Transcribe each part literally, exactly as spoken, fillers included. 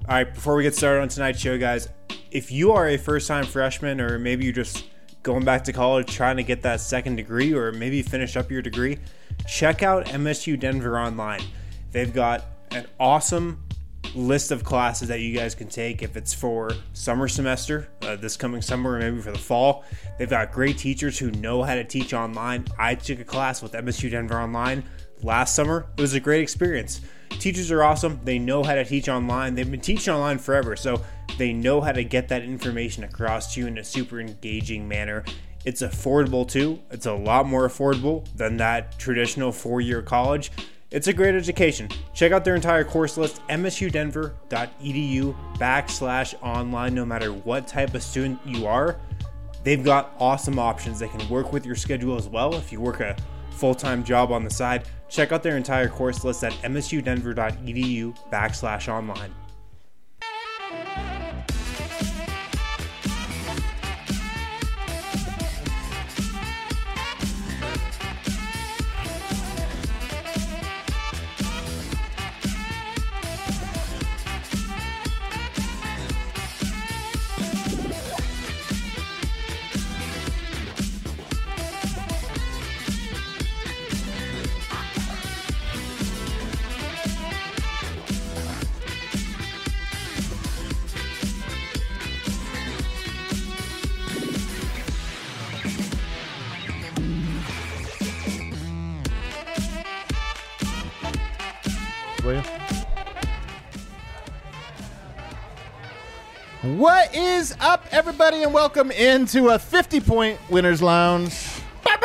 All right, before we get started on tonight's show, guys, if you are a first-time freshman or maybe you're just going back to college trying to get that second degree or maybe finish up your degree, check out M S U Denver Online. They've got an awesome list of classes that you guys can take if it's for summer semester, uh, this coming summer, or maybe for the fall. They've got great teachers who know how to teach online. I took a class with M S U Denver Online last summer. It was a great experience. Teachers are awesome. They know how to teach online. They've been teaching online forever, so they know how to get that information across to you in a super engaging manner. It's affordable too. It's a lot more affordable than that traditional four-year college. It's a great education. Check out their entire course list, msudenver.edu backslash online, no matter what type of student you are. They've got awesome options. They can work with your schedule as well. If you work a full-time job on the side, check out their entire course list at msudenver.edu backslash online. What is up, everybody, and welcome into a fifty-point Winners Lounge. He's on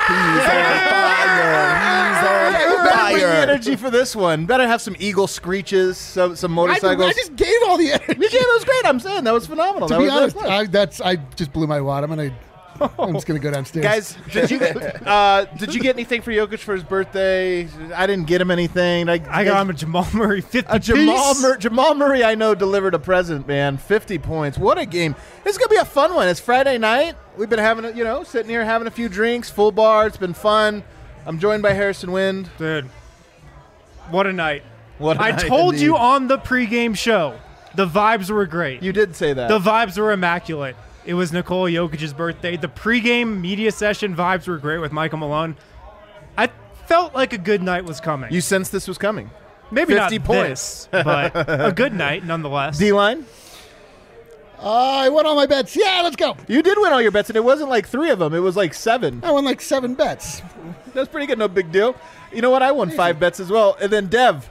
fire. He's on Better bring the fire. energy for this one. Better have some eagle screeches, some, some I, motorcycles. I just gave all the energy. You gave it was great. I'm saying that was phenomenal. To that be was honest, that was I, that's I just blew my wad. I'm gonna. I'm just gonna go downstairs. Guys, did you uh, did you get anything for Jokic for his birthday? I didn't get him anything. I, I got him a Jamal Murray fifty A Jamal, piece. Mur- Jamal Murray, I know, delivered a present, man. fifty points. What a game. This is going to be a fun one. It's Friday night. We've been having, a, you know, sitting here having a few drinks, full bar. It's been fun. I'm joined by Harrison Wind. Dude, what a night. What a I night told indeed. you on the pregame show, the vibes were great. You did say that. The vibes were immaculate. It was Nikola Jokic's birthday. The pregame media session vibes were great with Michael Malone. I felt like a good night was coming. you sensed this was coming. Maybe fifty not points. this, but a good night nonetheless. D-line, uh, I won all my bets. Yeah, let's go. you did win all your bets, and it wasn't like three of them. It was like seven. I won like seven bets. That's pretty good. No big deal. You know what? I won five bets as well. And then Dev.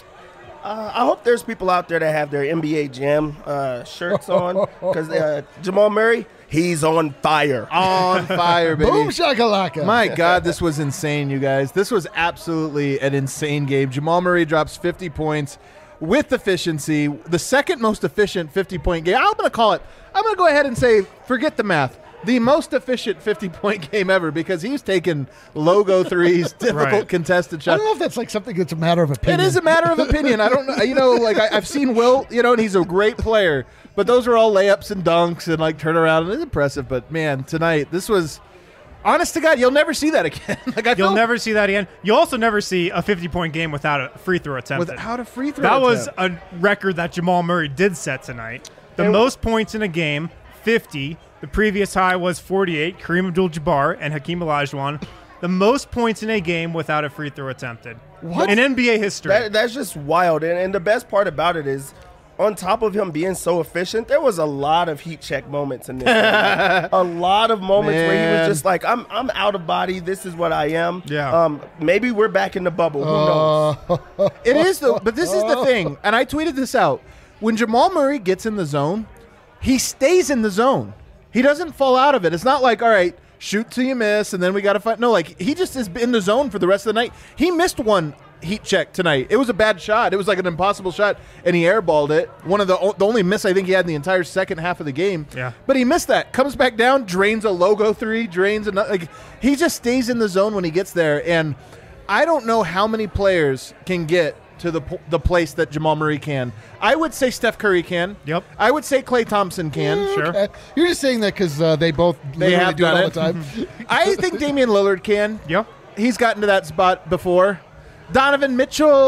Uh, I hope there's people out there that have their N B A Jam uh, shirts on because uh, Jamal Murray, he's on fire. On fire, baby. Boom shakalaka. My God, this was insane, you guys. This was absolutely an insane game. Jamal Murray drops fifty points with efficiency. The second most efficient fifty-point game. I'm going to call it, I'm going to go ahead and say, forget the math. The most efficient fifty-point game ever because he's taking logo threes, difficult Right. contested I shots. don't know if that's like something that's a matter of It opinion. is a matter of opinion. I don't know. You know, like I, I've seen Will, you know, and he's a great player. But those are all layups and dunks and like turnaround. And it's impressive. But man, tonight, this was, honest to God, you'll never see that again. like I You'll feel never see that again. You'll also never see a fifty-point game without a free throw attempt. without a free throw. That was attempt. a record that Jamal Murray did set tonight. The And- most points in a game, fifty. The previous high was forty-eight, Kareem Abdul-Jabbar and Hakeem Olajuwon. The most points in a game without a free throw attempted. What? In N B A history. That, that's just wild. And, and the best part about it is, on top of him being so efficient, there was a lot of heat check moments in this game. A lot of moments where he Man. was just like, I'm I'm out of body. This is what I am. Yeah. Um, maybe we're back in the bubble. Who knows? Uh, It is though, but this is the thing, and I tweeted this out. When Jamal Murray gets in the zone, he stays in the zone. He doesn't fall out of it. It's not like, all right, shoot till you miss, and then we got to fight. No, like he just is in the zone for the rest of the night. He missed one heat check tonight. It was a bad shot. It was like an impossible shot, and he airballed it. One of the o- the only miss I think he had in the entire second half of the game. Yeah. But he missed that. Comes back down, drains a logo three, drains another. Like he just stays in the zone when he gets there, and I don't know how many players can get to the p- the place that Jamal Murray can. I would say Steph Curry can. Yep. I would say Klay Thompson can. Sure. okay. You're just saying that because uh, they both They literally have do it done all it. the time. I think Damian Lillard can. Yeah. He's gotten to that spot before. Donovan Mitchell,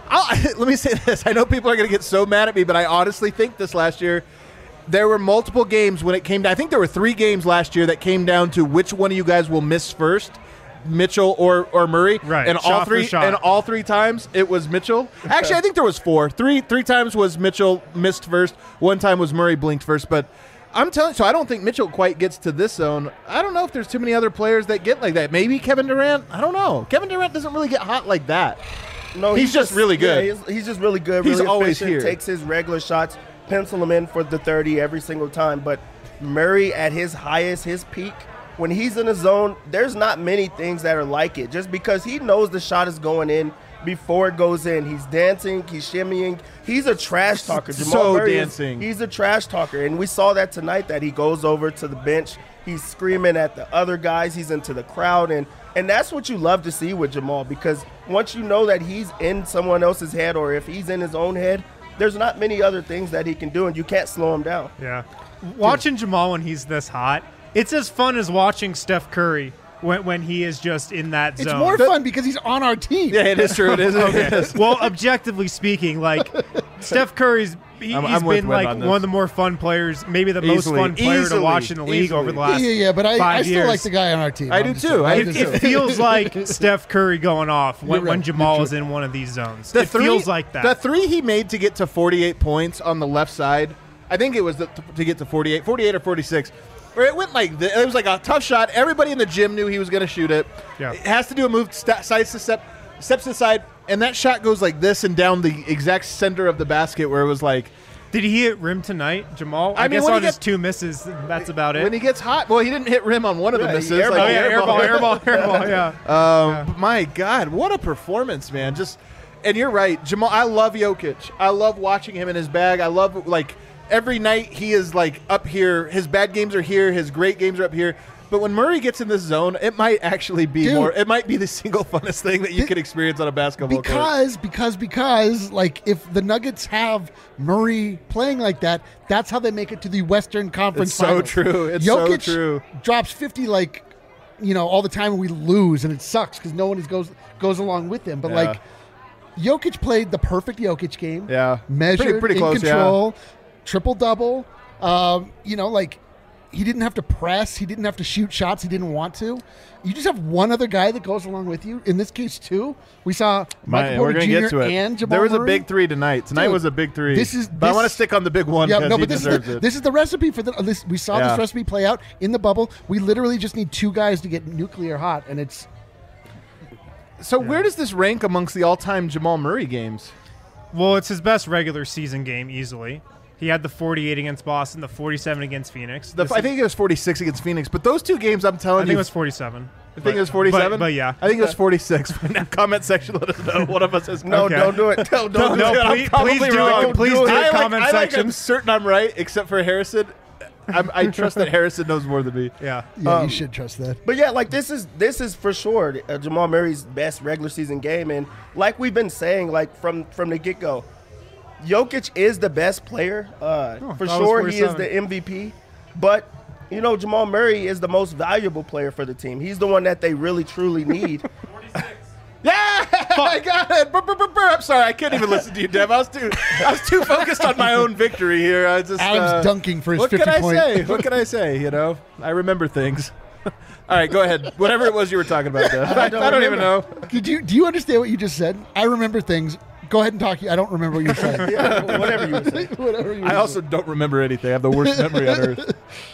I'll, let me say this. I know people are going to get so mad at me, but I honestly think this last year, there were multiple games when it came down. I think there were three games last year that came down to which one of you guys will miss first, Mitchell or, or Murray. Right. And Shot all for three shot. and all three times it was Mitchell. Actually, I think there was four. Three three times was Mitchell missed first. One time was Murray blinked first. But I'm telling you, so I don't think Mitchell quite gets to this zone. I don't know if there's too many other players that get like that. Maybe Kevin Durant. I don't know. Kevin Durant doesn't really get hot like that. No, He's just really good. Yeah, he's, he's just really good. He's really always efficient, here. Takes his regular shots, pencil him in for the thirty every single time. But Murray at his highest, his peak, when he's in the zone, there's not many things that are like it. Just because he knows the shot is going in before it goes in. He's dancing, he's shimmying. He's a trash talker. Jamal So Murray is- dancing. he's a trash talker. And we saw that tonight that he goes over to the bench. He's screaming at the other guys. He's into the crowd. And, and that's what you love to see with Jamal, because once you know that he's in someone else's head, or if he's in his own head, there's not many other things that he can do, and you can't slow him down. Yeah. Watching Jamal when he's this hot, it's as fun as watching Steph Curry when, when he is just in that It's zone. more fun because he's on our team. Yeah, it is true. It is. It Okay. is. Well, objectively speaking, like Steph Curry's, he, I'm- he's I'm with been Webb like on one this. of the more fun players, maybe the most Easily. fun player Easily. to watch in the league Easily. over the Yeah, last yeah, yeah, but I, five I still years. like the guy on our team. I I'm do just too. saying. I I'm do just It, too. it saying. feels like Steph Curry going off when, You're when right. Jamal You're is in one of these zones. The it three, feels like that. The three he made to get to forty-eight points on the left side, I think it was the, to get to forty-eight, forty-eight or forty-six. Where it went like the, it was like a tough shot. Everybody in the gym knew he was going to shoot it. Yeah. It has to do a move, st- sides to step, steps to the side, and that shot goes like this and down the exact center of the basket where it was like. Did he hit rim tonight, Jamal? I I, mean, guess when on he his get- two misses, that's about it. When he gets hot, well, he didn't hit rim on one of the Yeah, he misses. airballed. oh, like, yeah, airball, airball, airball, yeah. Um, but my God, what a performance, man! Just, and you're right, Jamal. I love Jokic. I love watching him in his bag. I love like every night he is like up here. His bad games are here. His great games are up here. But when Murray gets in this zone, it might actually be Dude. more. It might be the single funnest thing that you Th- could experience on a basketball court. Because, because, because, like, if the Nuggets have Murray playing like that, that's how they make it to the Western Conference It's so Finals. true. It's so Jokic true. drops fifty, like, you know, all the time, and we lose, and it sucks because no one is goes goes along with him. But, Yeah. like, Jokic played the perfect Jokic game. Yeah. Measured, Pretty- pretty in close, yeah. control, triple-double. Um, you know, like, he didn't have to press. He didn't have to shoot shots he didn't want to. You just have one other guy that goes along with you. In this case, two. We saw My- Michael we're Porter gonna Junior get to it. and Jamal there was a Murray. big three tonight. Tonight Dude, was a big three. this is- but I want to this- stick on the big one Yeah, because no, he but this is, deserves the, it. this is the recipe for the. This, we saw Yeah. this recipe play out in the bubble. We literally just need two guys to get nuclear hot, and it's So where does this rank amongst the all-time Jamal Murray games? Well, it's his best regular season game easily. He had the forty-eight against Boston, the forty-seven against Phoenix. The, This I is- think it was forty-six against Phoenix, but those two games, I'm I telling think you, it was forty-seven. I think it was forty-seven. But, but yeah. I think it was forty-six. Comment section, let us know. One of us is No, Okay. don't do it. No, don't No, do it. please, probably please do wrong. it. Please Do do it. it. I like- Comment I like, section. I'm certain I'm right, except for Harrison. I'm, I trust that Harrison knows more than me. Yeah. yeah, Um, you should trust that. But yeah, like this is this is for sure uh, Jamal Murray's best regular season game, and like we've been saying, like from from the get go, Jokic is the best player. Uh, Oh, for that was sure, he is forty-seven. the M V P. But you know, Jamal Murray is the most valuable player for the team. He's the one that they really truly need. Yeah, I got it. Brr, brr, brr, brr. I'm sorry, I couldn't even listen to you, Dev. I was too, I was too focused on my own victory here. I just Adam's uh, dunking for his What fifty can I point. say? What can I say? You know, I remember things. All right, go ahead. Whatever it was you were talking about, Dev. I, I don't don't, even know. Did you do you understand what you just said? I remember things. Go ahead and talk. I don't remember what you said. Yeah, whatever you would say. Whatever you I also don't remember anything. I have the worst memory on earth.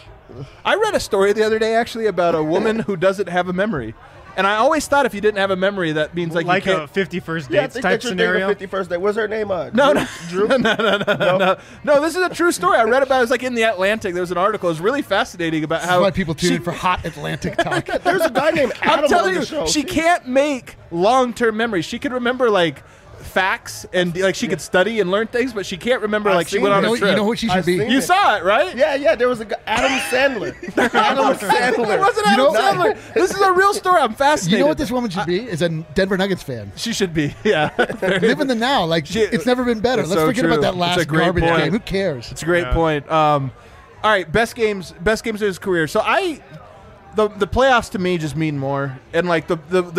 I read a story the other day actually about a woman who doesn't have a memory. And I always thought if you didn't have a memory, that means like, Like you a can't. fifty-first Yeah, I dates think type that you're thinking scenario. fifty-first day. What's her name? Uh, No, Drew? no, Drew? no, no, no, no, no, no. This is a true story. I read about it. It was like in the Atlantic. There was an article. It was really fascinating about That's how why people tune she- in for hot Atlantic talk. There's a guy named Adam I'm telling on you, the show. she can't make long-term memories. She could remember like facts and like she could study and learn things, but she can't remember I've like she seen went it. on You know, a trip. you know what she should I've be? seen You it. saw it, right? Yeah, yeah. There was a guy, Adam Sandler. Adam It Sandler. wasn't You Adam know- Sandler. This is a real story. I'm fascinated. You know what this woman should be? Is a Denver Nuggets fan. She should be. Yeah. Live in the now. Like She- it's never been better. It's Let's so forget true. about that It's last a great garbage point. game. Who cares? It's a great Yeah. point. Um, all right, best games, best games of his career. So I, the the playoffs to me just mean more, and like the the the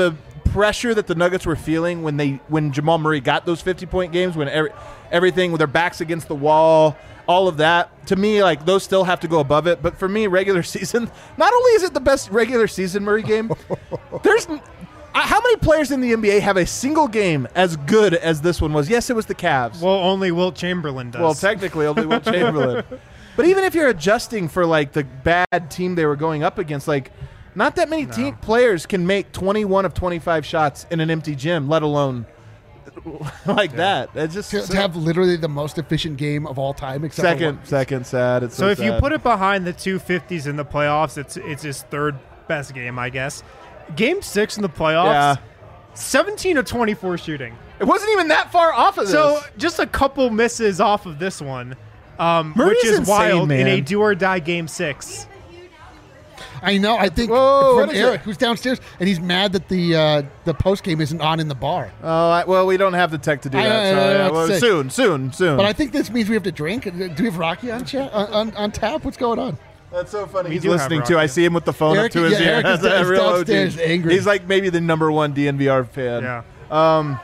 pressure that the Nuggets were feeling when they when Jamal Murray got those fifty-point games, when every, everything with their backs against the wall, all of that, to me, like, those still have to go above it. But for me, regular season, not only is it the best regular season Murray game, there's how many players in the N B A have a single game as good as this one was? Yes, it was the Cavs. Well, only Wilt Chamberlain does. Well, technically, only Wilt Chamberlain. But even if you're adjusting for, like, the bad team they were going up against, like, not that many No. team players can make twenty-one of twenty-five shots in an empty gym, let alone like that. It's just To, to have literally the most efficient game of all time, except for second, one. second sad. It's so, So if you sad. put it behind the two fifties in the playoffs, it's it's his third best game, I guess. Game six in the playoffs, Yeah. seventeen of twenty-four shooting. it wasn't even that far off of this. So just a couple misses off of this one, um, Murray's which is insane, wild in man. a do or die game six. I know. I think Whoa, what from is Eric, it? who's downstairs, and he's mad that the uh, the post game isn't on in the bar. oh, I, well, we don't have the tech to do I- that. I- so, I- I yeah, have to well, say. soon, soon, soon. But I think this means we have to drink. Do we have Rocky on chat on, on, on tap? What's going on? That's so funny. We He's do have listening Rocky. too. I see him with the phone Eric- up to his yeah, ear. Eric is- That's a is real O G. downstairs angry. He's like maybe the number one D N V R fan. Yeah. Um,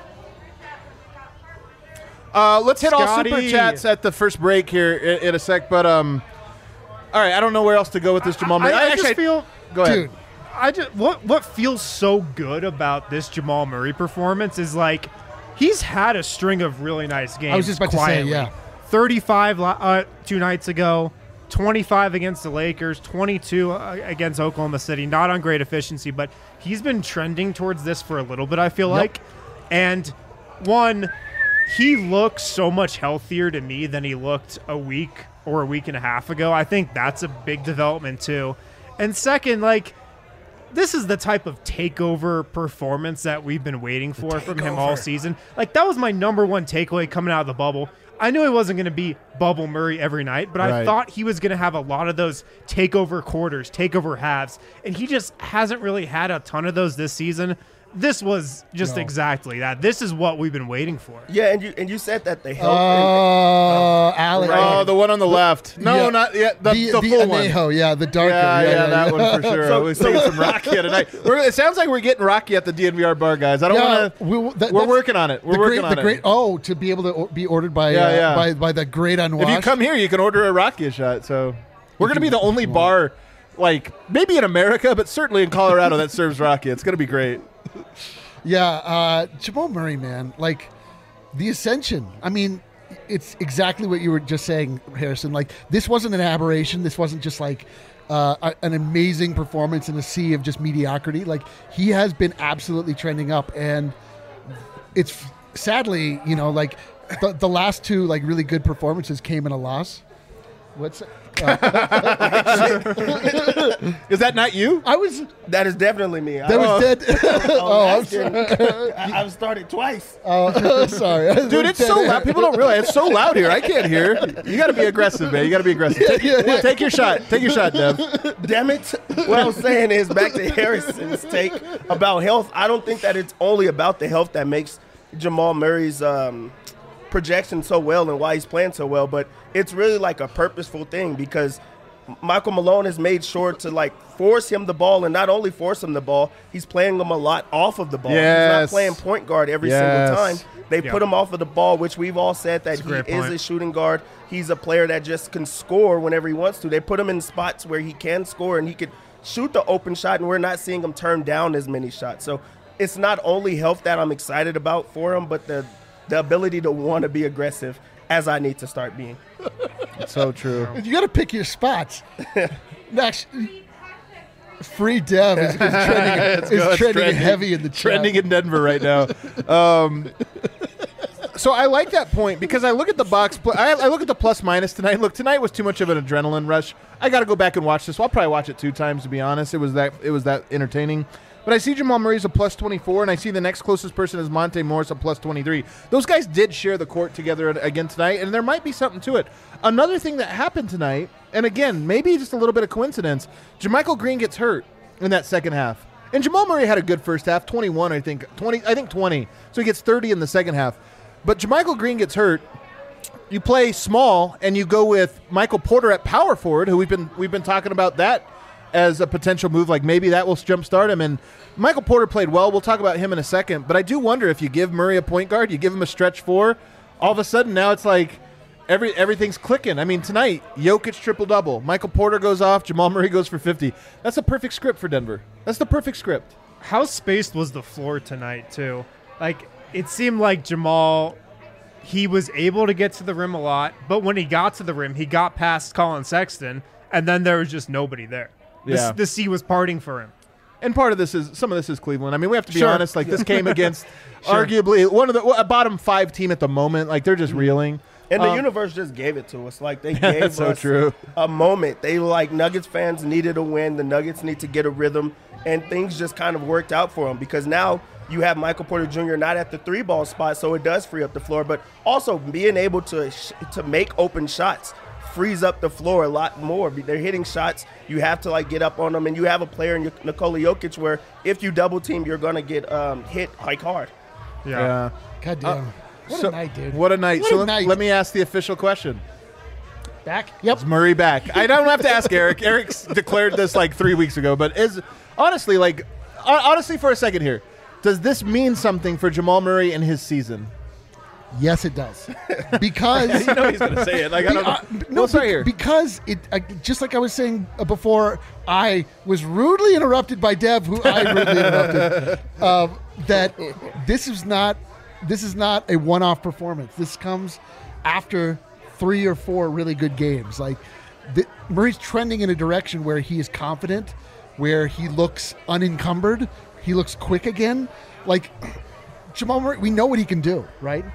uh, let's hit all super Scotty. chats at the first break here in, in a sec. But um, all right, I don't know where else to go with this Jamal I, Murray. I Actually, just feel, go ahead. Dude, I just what what feels so good about this Jamal Murray performance is like he's had a string of really nice games. I was just about to say, quietly. yeah. thirty-five la- uh, two nights ago, twenty-five against the Lakers, twenty-two uh, against Oklahoma City. Not on great efficiency, but he's been trending towards this for a little bit, I feel like. And one, he looks so much healthier to me than he looked a week or a week and a half ago. I think that's a big development too. And second, like, this is the type of takeover performance that we've been waiting for from him all season. Like, that was my number one takeaway coming out of the bubble. I knew he wasn't going to be bubble Murray every night, but I Right. thought he was going to have a lot of those takeover quarters, takeover halves, and he just hasn't really had a ton of those this season. This was just No. exactly that. This is what we've been waiting for. Yeah, and you and you said that the Oh, health. Alex. Right. Oh, the one on the left. No, Yeah. not yet. The, the, the the full one. Anejo, yeah, the darker. Yeah, yeah, that one for sure. So- We're seeing some Rocky tonight. We're, it sounds like we're getting Rocky at the D N V R bar, guys. I don't Yeah, want to. we- We, that- are that's working on it. We're the working great, on the it. great. Oh, to be able to o- be ordered by Yeah, uh, yeah. by by the great unwashed. If you come here, you can order a Rocky shot. So we're going to be the only bar, like maybe in America, but certainly in Colorado that serves Rocky. It's going to be great. Yeah, uh, Jamal Murray, man, like the ascension. I mean, it's exactly what you were just saying, Harrison. Like, this wasn't an aberration. This wasn't just like uh, a, an amazing performance in a sea of just mediocrity. Like, he has been absolutely trending up, and it's sadly, you know, like the, the last two like really good performances came in a loss. What's Is that not you? I was That is definitely me. that I, was dead. oh, I'm asking- I, I've started twice. Oh, sorry, Dude, it's so loud. People don't realize it's so loud here. I can't hear. You got to be aggressive, man. You got to be aggressive. Take, yeah, yeah. take your shot. Take your shot, Dev. Damn it. What I was saying is back to Harrison's take about health. I don't think that it's only about the health that makes Jamal Murray's um, projection so well and why he's playing so well, but it's really like a purposeful thing because Michael Malone has made sure to like force him the ball, and not only force him the ball, he's playing him a lot off of the ball. He's Yes. not playing point guard every Yes. single time. They Yeah. put him off of the ball, which we've all said that That's a he great is point. a shooting guard. He's a player that just can score whenever he wants to. They put him in spots where he can score and he could shoot the open shot, and we're not seeing him turn down as many shots. So it's not only health that I'm excited about for him, but the the ability to want to be aggressive as I need to start being. So true. You got to pick your spots. Max, free Dev is, is trending, is go, it's trending trending. heavy in the chat. Trending in Denver right now. Um, so I like that point because I look at the box. Pl- I, I look at the plus minus tonight. Look, tonight was too much of an adrenaline rush. I got to go back and watch this. I'll probably watch it two times to be honest. It was that it was that entertaining. But I see Jamal Murray's a plus twenty-four, and I see the next closest person is Monte Morris a plus twenty-three. Those guys did share the court together again tonight, and there might be something to it. Another thing that happened tonight, and again, maybe just a little bit of coincidence, JaMychal Green gets hurt in that second half. And Jamal Murray had a good first half, twenty-one, I think, twenty, I think twenty. So he gets thirty in the second half. But JaMychal Green gets hurt. You play small, and you go with Michael Porter at power forward, who we've been we've been talking about that as a potential move. Like maybe that will jumpstart him. And Michael Porter played well. We'll talk about him in a second. But I do wonder if you give Murray a point guard, you give him a stretch four, all of a sudden now it's like every everything's clicking. I mean, tonight, Jokic triple-double. Michael Porter goes off. Jamal Murray goes for fifty. That's a perfect script for Denver. That's the perfect script. How spaced was the floor tonight, too? Like, it seemed like Jamal, he was able to get to the rim a lot, but when he got to the rim, he got past Colin Sexton, and then there was just nobody there. The, Yeah. the sea was parting for him. And part of this is, some of this is Cleveland. I mean, we have to be Sure. honest. Like, this came against arguably one of the, a bottom five team at the moment. Like, they're just reeling. And the Um, universe just gave it to us. Like they gave That's so us true. a moment. They like Nuggets fans needed a win. The Nuggets need to get a rhythm, and things just kind of worked out for them because now you have Michael Porter Junior not at the three ball spot, so it does free up the floor. But also being able to sh- to make open shots frees up the floor a lot more. They're hitting shots. You have to like get up on them, and you have a player in Nikola Jokic where if you double team, you're gonna get um, hit like hard. Yeah. Yeah. God damn. what So- a night, dude. What a night. What so a let, night. let me ask the official question. Back? Yep. Is Murray back? I don't have to ask Eric. Eric's declared this like three weeks ago, but is honestly, like, hon- honestly, for a second here, does this mean something for Jamal Murray and his season? Yes, it does. Because You know he's going to say it. Like, I Be- don't know. uh, No, no, sorry bec- here. because it uh, just like I was saying uh, before, I was rudely interrupted by Dev, who I rudely interrupted. Um, that this is not this is not a one-off performance. This comes after three or four really good games. Like the, Murray's trending in a direction where he is confident, where he looks unencumbered, he looks quick again. Like Jamal Murray, we know what he can do, right?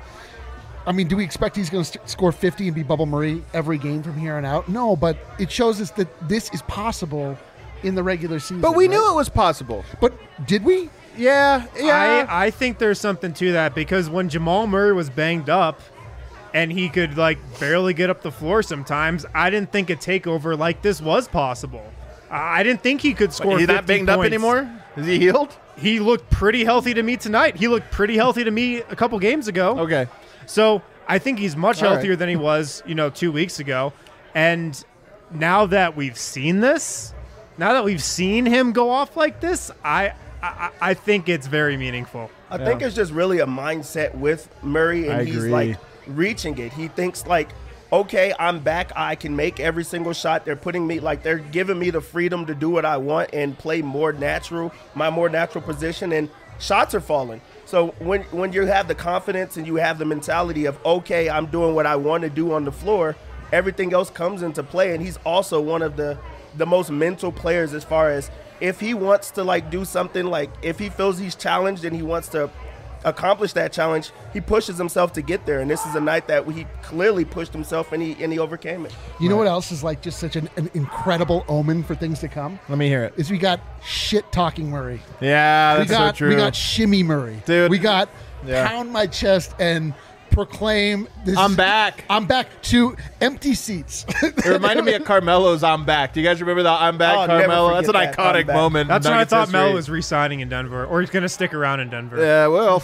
I mean, do we expect he's going to st- score fifty and be Bubble Murray every game from here on out? No, but it shows us that this is possible in the regular season. But we right? knew it was possible. But did we? Yeah, yeah. I, I think there's something to that because when Jamal Murray was banged up and he could like barely get up the floor sometimes, I didn't think a takeover like this was possible. I I didn't think he could score He's not fifty banged up points. anymore? Is he healed? He looked pretty healthy to me tonight. He looked pretty healthy to me a couple games ago. Okay. So I think he's much All healthier right. than he was, you know, two weeks ago. And now that we've seen this, now that we've seen him go off like this, I I, I think it's very meaningful. I think it's just really a mindset with Murray, and I he's agree. like reaching it. He thinks like, okay, I'm back. I can make every single shot. They're putting me like they're giving me the freedom to do what I want and play more natural, my more natural position, and shots are falling. So when when you have the confidence and you have the mentality of okay, I'm doing what I want to do on the floor, everything else comes into play. And he's also one of the the most mental players as far as if he wants to like do something, like if he feels he's challenged and he wants to accomplish that challenge, he pushes himself to get there. And this is a night that he clearly pushed himself and he and he overcame it. You know what else is like just such an, an incredible omen for things to come? Let me hear it. Is we got shit talking Murray. Yeah, We that's got so true. we got shimmy Murray. Dude. We got Yeah. pound my chest and proclaim this I'm back. I'm back to empty seats. It reminded me of Carmelo's "I'm Back." Do you guys remember the "I'm Back" Oh, never Carmelo? That's an forget that, iconic "I'm Back." moment. in That's when I Nuggets thought history. Melo was re-signing in Denver, or he's going to stick around in Denver. Yeah, well,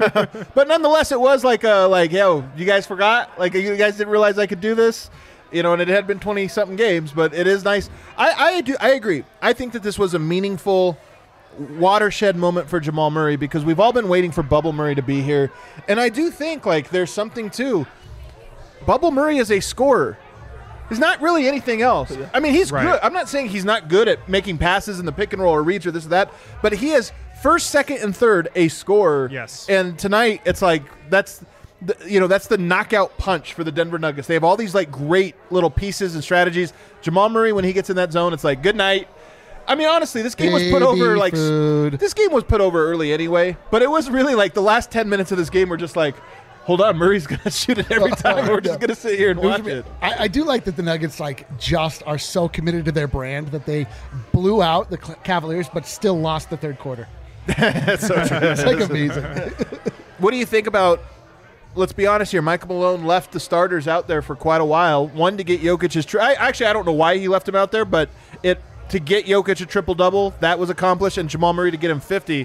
but nonetheless, it was like, uh, like, yo, you guys forgot? Like, you guys didn't realize I could do this, you know? And it had been twenty something games, but it is nice. I, I do, I agree. I think that this was a meaningful watershed moment for Jamal Murray because we've all been waiting for Bubble Murray to be here, and I do think like there's something to Bubble Murray is a scorer. He's not really anything else. I mean, he's Right. good. I'm not saying he's not good at making passes in the pick and roll or reads or this or that, but he is first, second, and third a scorer. Yes. And tonight, it's like that's the, you know that's the knockout punch for the Denver Nuggets. They have all these like great little pieces and strategies. Jamal Murray, when he gets in that zone, it's like good night. I mean, honestly, this game was put Baby over like food. this game was put over early anyway. But it was really like the last ten minutes of this game were just like, hold on, Murray's gonna shoot it every time. We're just gonna sit here and watch it. I, I do like that the Nuggets like just are so committed to their brand that they blew out the Cl- Cavaliers, but still lost the third quarter. That's so true. It's like amazing. What do you think about? Let's be honest here. Michael Malone left the starters out there for quite a while. One to get Jokic his. Tri- I, actually, I don't know why he left him out there, but it to get Jokic a triple double that was accomplished, and Jamal Murray to get him fifty.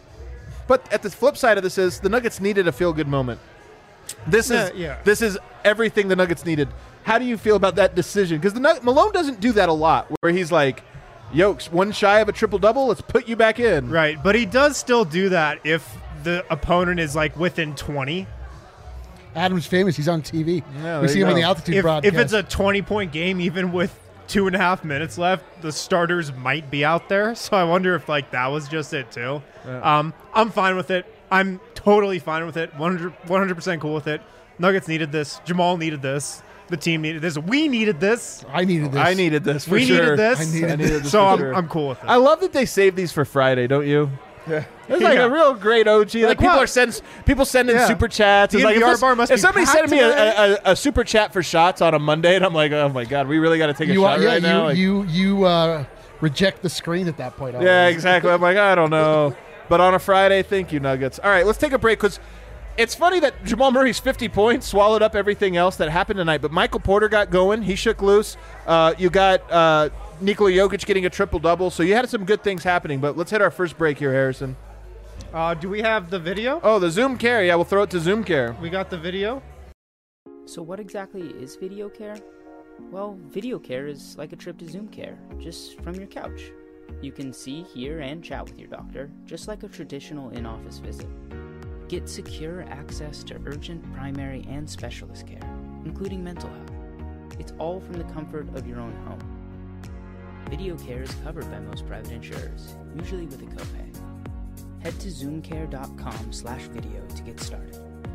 But at the flip side of this is the Nuggets needed a feel good moment. This Yeah, is yeah. this is everything the Nuggets needed. How do you feel about that decision? Because the Nug- Malone doesn't do that a lot, where he's like, Yokes, one shy of a triple-double. Let's put you back in. Right, but he does still do that if the opponent is like within twenty. Adam's famous. He's on T V. Yeah, we there see you him on go. the altitude If, broadcast. if it's a twenty-point game, even with two and a half minutes left, the starters might be out there. So I wonder if like that was just it too. Yeah. Um, I'm fine with it. I'm totally fine with it. one hundred percent cool with it. Nuggets needed this. Jamal needed this. The team needed this. We needed this. I needed this. I needed this for we sure. needed this. I needed I needed this so for I'm, sure. I'm cool with it. I love that they save these for Friday, don't you? Yeah. It's like Yeah. a real great O G. Like, Like people what? are send, people sending Yeah. super chats. It's The like if, N V R this- bar must if be somebody's packed sending me today. a, a, a super chat for shots on a Monday, and I'm like, oh my god, we really got to take a You, shot uh, yeah, right you, now. Like, you, you uh, reject the screen at that point. yeah, always. exactly. I'm like, I don't know. But on a Friday, thank you, Nuggets. All right, let's take a break because it's funny that Jamal Murray's fifty points swallowed up everything else that happened tonight. But Michael Porter got going. He shook loose. Uh, you got uh, Nikola Jokic getting a triple-double. So you had some good things happening. But let's hit our first break here, Harrison. Uh, do we have the video? Oh, the Zoom Care. Yeah, we'll throw it to Zoom Care. We got the video. So what exactly is video care? Well, video care is like a trip to Zoom Care, just from your couch. You can see, hear, and chat with your doctor, just like a traditional in-office visit. Get secure access to urgent, primary, and specialist care, including mental health. It's all from the comfort of your own home. Video care is covered by most private insurers, usually with a copay. Head to zoomcare.com slash video to get started.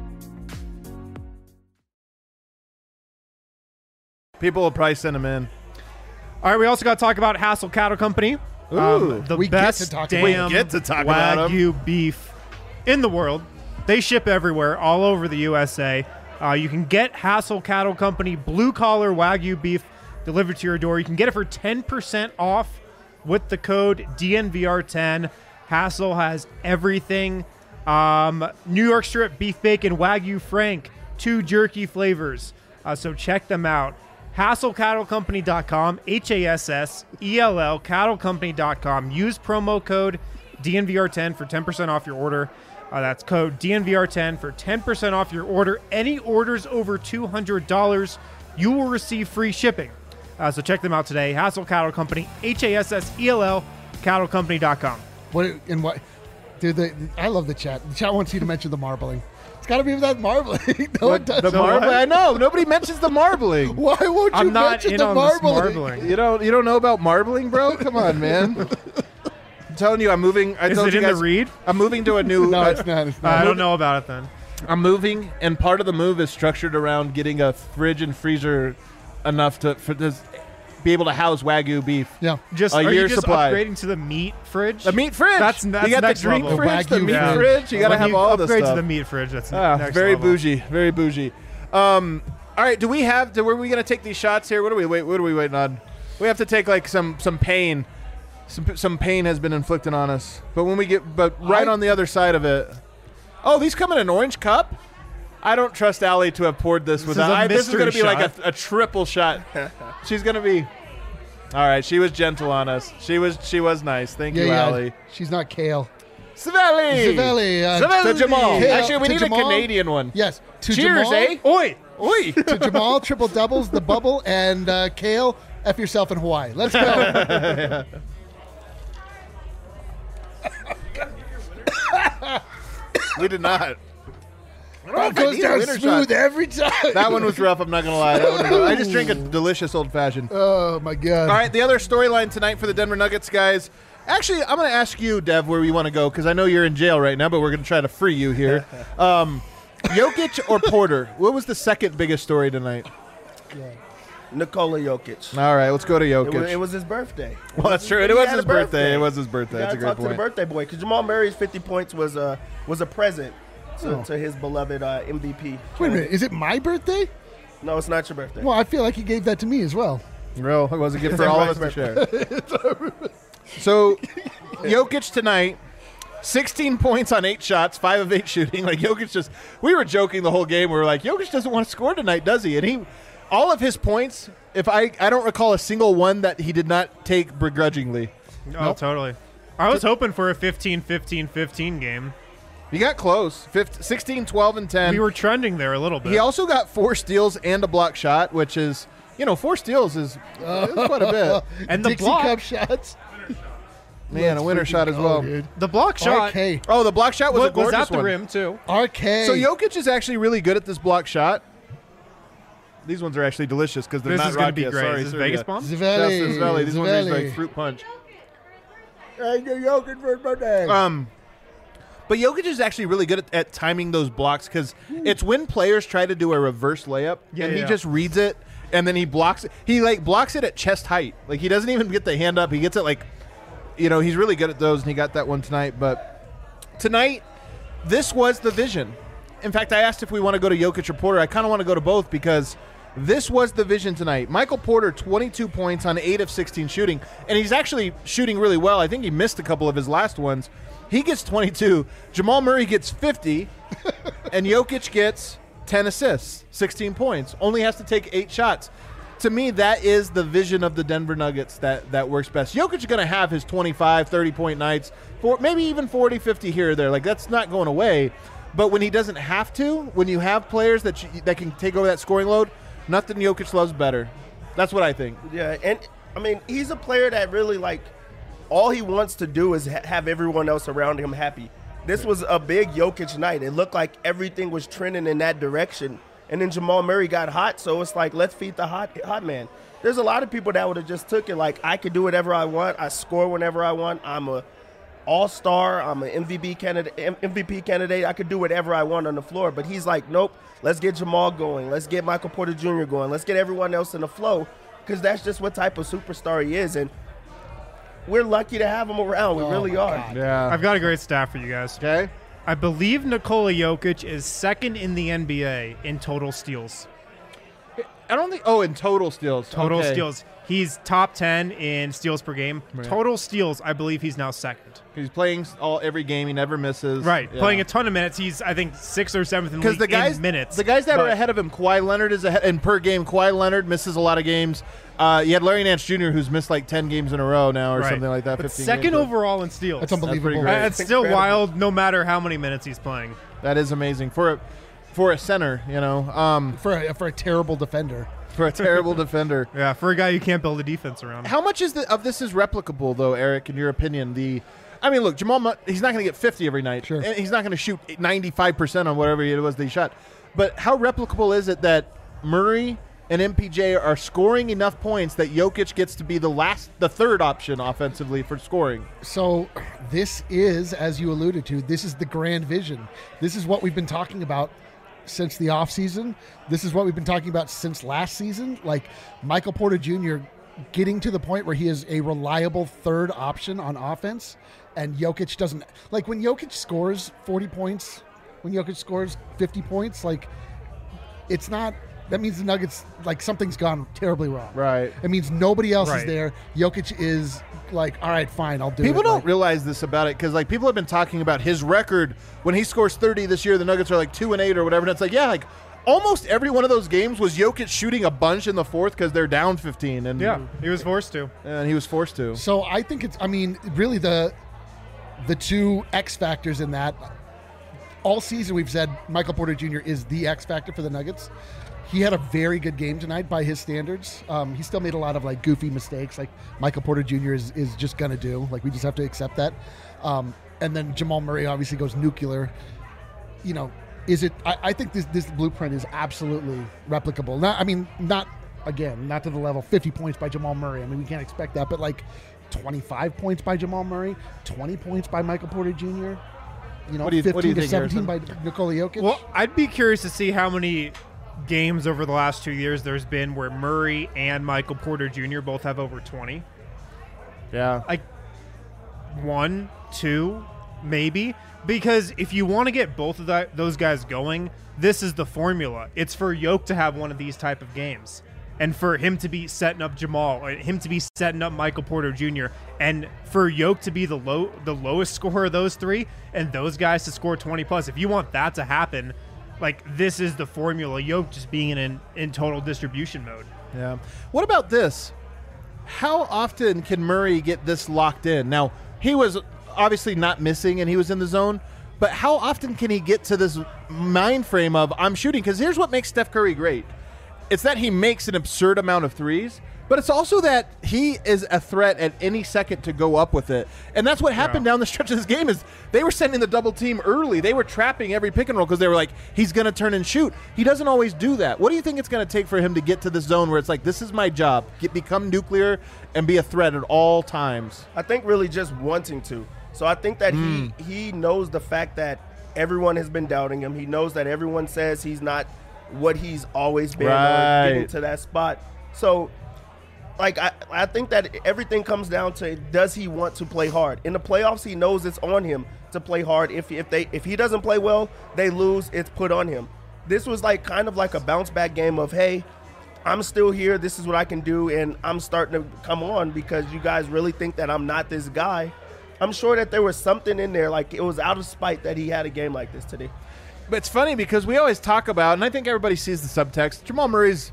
People will probably send them in. All right, we also got to talk about Hassel Cattle Company. Ooh. um, the We get best to talk damn about- We get to talk about 'em. Wagyu beef in the world. They ship everywhere, all over the U S A. Uh, you can get Hassel Cattle Company blue collar Wagyu beef delivered to your door. You can get it for ten percent off with the code D N V R ten. Hassel has everything. Um, New York strip beef bacon Wagyu Frank, two jerky flavors. Uh, so check them out. hassel cattle company dot com, H A S S E L L, cattle company dot com. Use promo code D N V R ten for ten percent off your order. Uh, that's code D N V R ten for ten percent off your order. Any orders over two hundred dollars, you will receive free shipping. Uh, so check them out today. Hassel Cattle Company, H A S S E L L, cattle company dot com. What and what, dude? The, I love the chat. The chat wants you to mention the marbling. It's got to be that marbling. no one does. The So marbling? what? I know. Nobody mentions the marbling. Why won't you I'm not mention in the on this marbling? marbling. You don't you don't know about marbling, bro? Come on, man. I'm telling you, I'm moving. I Is told it you in guys, the read? I'm moving to a new. No, uh, it's not. It's Uh, not. I don't know about it then. I'm moving, and part of the move is structured around getting a fridge and freezer enough to for this be able to house Wagyu beef. Yeah. Just A are you year's just supply. upgrading to the meat fridge? The meat fridge. That's- that's you got next the drink level. fridge, the Wagyu meat fridge. fridge. You got to When have you all this upgrade stuff. to the meat fridge. That's Ah, next very level. bougie, very bougie. Um, all right, do we have? Do, were we gonna take these shots here? What are we wait? What are we waiting on? We have to take like some some pain. Some some pain has been inflicted on us. But when we get, but right I- on the other side of it. Oh, these come in an orange cup. I don't trust Allie to have poured this, This without. is a I, this is mystery going to be like shot. a, a triple shot. She's going to be. All right, she was gentle on us. She was she was nice. Thank Yeah, you, yeah. Allie. She's not kale. Savelli. Savelli, uh, Savelli. To Jamal. Kale- Actually, we to need Jamal? a Canadian one. Yes. To Cheers, Jamal, eh? Oi! Oi. To Jamal, triple doubles, the bubble, and uh, Kale, F yourself in Hawaii. Let's go. We did not. Oh, it goes need a down winner smooth shot. every time. That one was rough. I'm not gonna lie. That one was- I just drink a delicious old fashioned. Oh, my God. All right, the other storyline tonight for the Denver Nuggets guys. Actually, I'm going to ask you, Dev, where you want to go because I know you're in jail right now, but we're going to try to free you here. Um, Jokic or Porter? What was the second biggest story tonight? Nikola Jokic. All right, let's go to It Jokic. was, it was his birthday. well, that's true. It He was had his a birthday. It was his birthday. You That's a gotta great talk to the point. birthday boy because Jamal Murray's fifty points was a was a present to, Oh. to his beloved uh, M V P. Wait a minute. Is it my birthday? No, it's not your birthday. Well, I feel like he gave that to me as well. Real, it was a gift for all of us to share. So, Jokic tonight, sixteen points on eight shots, five of eight shooting. Like Jokic just, we were joking the whole game. We were like, Jokic doesn't want to score tonight, does he? And he, all of his points, if I, I don't recall a single one that he did not take begrudgingly. Oh, totally. I was hoping for a fifteen fifteen fifteen game. He got close, fifteen, sixteen, twelve, and ten. We were trending there a little bit. He also got four steals and a block shot, which is, you know, four steals is, is quite a bit. And the Dixie block. Cup shots. Man, Let's a winner freaking shot as go, well. dude. The block shot R K. Oh, the block shot was was, a gorgeous was at the one. rim too. R K. So Jokic is actually really good at this block shot. These ones are actually delicious because they're This not is going to rocky. be great. Sorry, is this Serbia. Vegas bomb? Zvelli. Justin Zvelli. These ones are Zvelli. like fruit punch. Hey, Jokic for his birthday. Um, but Jokic is actually really good at, at timing those blocks because it's when players try to do a reverse layup Yeah, and he yeah. just reads it and then he blocks it. He like blocks it at chest height. Like he doesn't even get the hand up. He gets it like, you know, he's really good at those and he got that one tonight. But tonight, this was the vision. In fact, I asked if we want to go to Jokic or Porter. I kind of want to go to both because this was the vision tonight. Michael Porter, twenty-two points on eight of sixteen shooting, and he's actually shooting really well. I think he missed a couple of his last ones. He gets twenty-two. Jamal Murray gets fifty, and Jokic gets ten assists, sixteen points. Only has to take eight shots. To me, that is the vision of the Denver Nuggets that, that works best. Jokic is going to have his twenty-five, thirty-point nights, for maybe even forty, fifty here or there. Like, that's not going away. But when he doesn't have to, when you have players that you, that can take over that scoring load, nothing Jokic loves better. That's what I think. Yeah, and I mean, he's a player that really, like, all he wants to do is ha- have everyone else around him happy. This was a big Jokic night. It looked like everything was trending in that direction. And then Jamal Murray got hot, so it's like, let's feed the hot hot man. There's a lot of people that would have just took it like, I could do whatever I want. I score whenever I want. I'm a all-star. I'm an M V P candidate. M V P candidate. I could do whatever I want on the floor. But he's like, nope. Let's get Jamal going. Let's get Michael Porter Junior going. Let's get everyone else in the flow because that's just what type of superstar he is. And we're lucky to have him around. We Oh really my are. God. Yeah. I've got a great stat for you guys. Okay. I believe Nikola Jokic is second in the N B A in total steals. I don't think. Oh, in total steals. Total Okay. steals. He's top ten in steals per game. Right. Total steals, I believe he's now second. He's playing all every game. He never misses. Right. Yeah. Playing a ton of minutes. He's, I think, sixth or seventh in the Because league the guys, in minutes. the guys that are But- ahead of him, Kawhi Leonard is ahead, and per game, Kawhi Leonard misses a lot of games. Uh, you had Larry Nance Junior, who's missed like ten games in a row now, or Right. something like that. But fifteen second games. overall in steals. That's unbelievable. great. Uh, It's still Incredible. wild no matter how many minutes he's playing. That is amazing for a for a center. You know, um, for a, for a terrible defender. for a terrible defender. Yeah, for a guy you can't build a defense around. How much is the, of this is replicable, though, Eric? In your opinion, the I mean, look, Jamal, Mu- he's not going to get fifty every night. Sure. And he's not going to shoot ninety-five percent on whatever it was that he shot. But how replicable is it that Murray and M P J are scoring enough points that Jokic gets to be the last, the third option offensively for scoring? So this is, as you alluded to, this is the grand vision. This is what we've been talking about since the offseason. This is what we've been talking about since last season. Like Michael Porter Junior getting to the point where he is a reliable third option on offense, and Jokic doesn't. Like when Jokic scores forty points, when Jokic scores fifty points, like it's not. That means the Nuggets, like something's gone terribly wrong. Right. It means nobody else is Right. there. Jokic is like, all right, fine, I'll do it. People don't Like, realize this about it because, like, people have been talking about his record. When he scores thirty this year, the Nuggets are like two and eight or whatever. And it's like, yeah, like almost every one of those games was Jokic shooting a bunch in the fourth because they're down fifteen, and Yeah, he was forced to. and he was forced to. So I think it's. I mean, really the the two X factors in that. All season we've said Michael Porter Junior is the X factor for the Nuggets. He had a very good game tonight by his standards. Um, he still made a lot of like goofy mistakes, like Michael Porter Junior is is just gonna do. Like we just have to accept that. Um, and then Jamal Murray obviously goes nuclear. You know, is it? I, I think this this blueprint is absolutely replicable. Not, I mean, not again, not to the level fifty points by Jamal Murray. I mean, we can't expect that, but like twenty-five points by Jamal Murray, twenty points by Michael Porter Junior You know, What do you- what do you fifteen to think, seventeen Harrison? by Nikola Jokic. Well, I'd be curious to see how many games over the last two years there's been where Murray and Michael Porter Junior both have over twenty. Yeah. Like one, two, maybe. Because if you want to get both of that, those guys going, this is the formula. It's for Yoke to have one of these type of games. And for him to be setting up Jamal, or him to be setting up Michael Porter Junior, and for Yoke to be the low, the lowest scorer of those three, and those guys to score twenty plus. If you want that to happen, like this is the formula. Yoke just being in in total distribution mode. Yeah. What about this? How often can Murray get this locked in? Now, he was obviously not missing and he was in the zone, but how often can he get to this mind frame of I'm shooting? Because here's what makes Steph Curry great. it's that he makes an absurd amount of threes, but it's also that he is a threat at any second to go up with it. And that's what happened Yeah. down the stretch of this game is they were sending the double team early. They were trapping every pick and roll because they were like, he's going to turn and shoot. He doesn't always do that. What do you think it's going to take for him to get to the zone where it's like, this is my job, get, become nuclear and be a threat at all times? I think really just wanting to. So I think that Mm. he he knows the fact that everyone has been doubting him. He knows that everyone says he's not what he's always been Right. or getting to that spot. So like I, I think that everything comes down to, does he want to play hard? In the playoffs, he knows it's on him to play hard. If if they if he doesn't play well, they lose, it's put on him. This was like kind of like a bounce back game of, hey, I'm still here, this is what I can do, and I'm starting to come on because you guys really think that I'm not this guy. I'm sure that there was something in there, like it was out of spite that he had a game like this today. But it's funny because we always talk about, and I think everybody sees the subtext, Jamal Murray's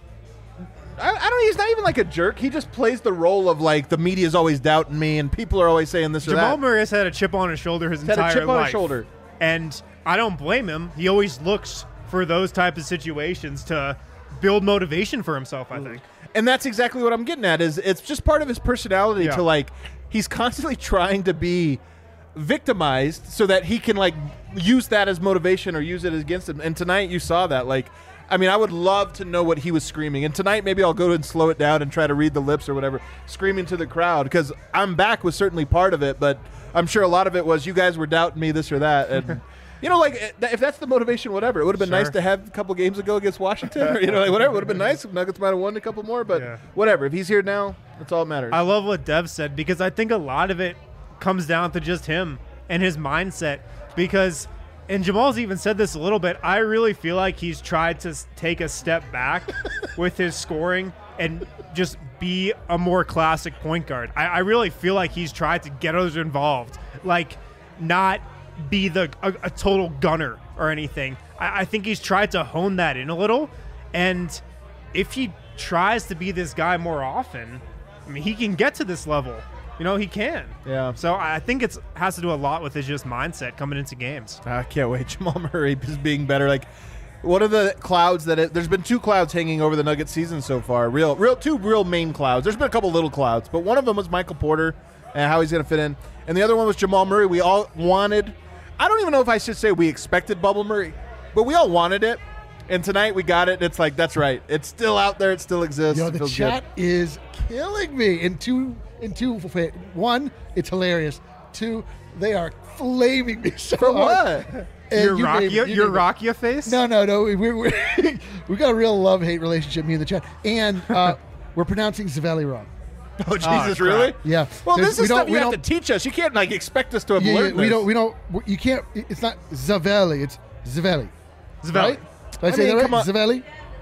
I, I don't. He's not even like a jerk. He just plays the role of like the media's always doubting me, and people are always saying this or Jamal that. Murray has had a chip on his shoulder his He's had a entire chip on life. his shoulder. And I don't blame him. He always looks for those type of situations to build motivation for himself, I think. And that's exactly what I'm getting at. Is it's just part of his personality Yeah. to like he's constantly trying to be victimized so that he can like use that as motivation or use it against him. And tonight you saw that. Like, I mean, I would love to know what he was screaming. And tonight maybe I'll go and slow it down and try to read the lips or whatever, screaming to the crowd, because I'm back was certainly part of it, but I'm sure a lot of it was you guys were doubting me this or that. And you know, like if that's the motivation, whatever. It would have been Sure. nice to have a couple games ago against Washington, or you know, like whatever. It would have been nice if Nuggets might have won a couple more, but Yeah. whatever. If he's here now, that's all that matters. I love what Dev said because I think a lot of it comes down to just him and his mindset. Because, and Jamal's even said this a little bit, I really feel like he's tried to s- take a step back with his scoring and just be a more classic point guard. I, I really feel like he's tried to get others involved, like not be the a, a total gunner or anything. I, I think he's tried to hone that in a little, and if he tries to be this guy more often, I mean, he can get to this level. You know, he can. Yeah. So I think it's has to do a lot with his just mindset coming into games. I can't wait. Jamal Murray is being better. Like one of the clouds that it, there's been two clouds hanging over the Nuggets season so far. Real, real, two real main clouds. There's been a couple little clouds, but one of them was Michael Porter and how he's going to fit in, and the other one was Jamal Murray. We all wanted. I don't even know if I should say we expected Bubble Murray, but we all wanted it. And tonight we got it. And it's like, that's right. It's still out there. It still exists. Yo, It the feels chat is killing me. In two, in two, one, it's hilarious. Two, they are flaming me so For hard. what? And Your you Rakia, name- you your name it. Rakia face? No, no, no. We we we we got a real love hate relationship, me and the chat, and uh, we're pronouncing Zavelli wrong. Oh, Jesus, crap. really? Yeah. Well, There's- this we is don't- stuff you we have to don't- teach us. You can't like expect us to have Yeah, yeah, learned we this. don't. We don't. You can't. It's not Zavelli. It's Zavelli. Zavelli. Right? Did I, I say mean, that come right? on. Zavelli.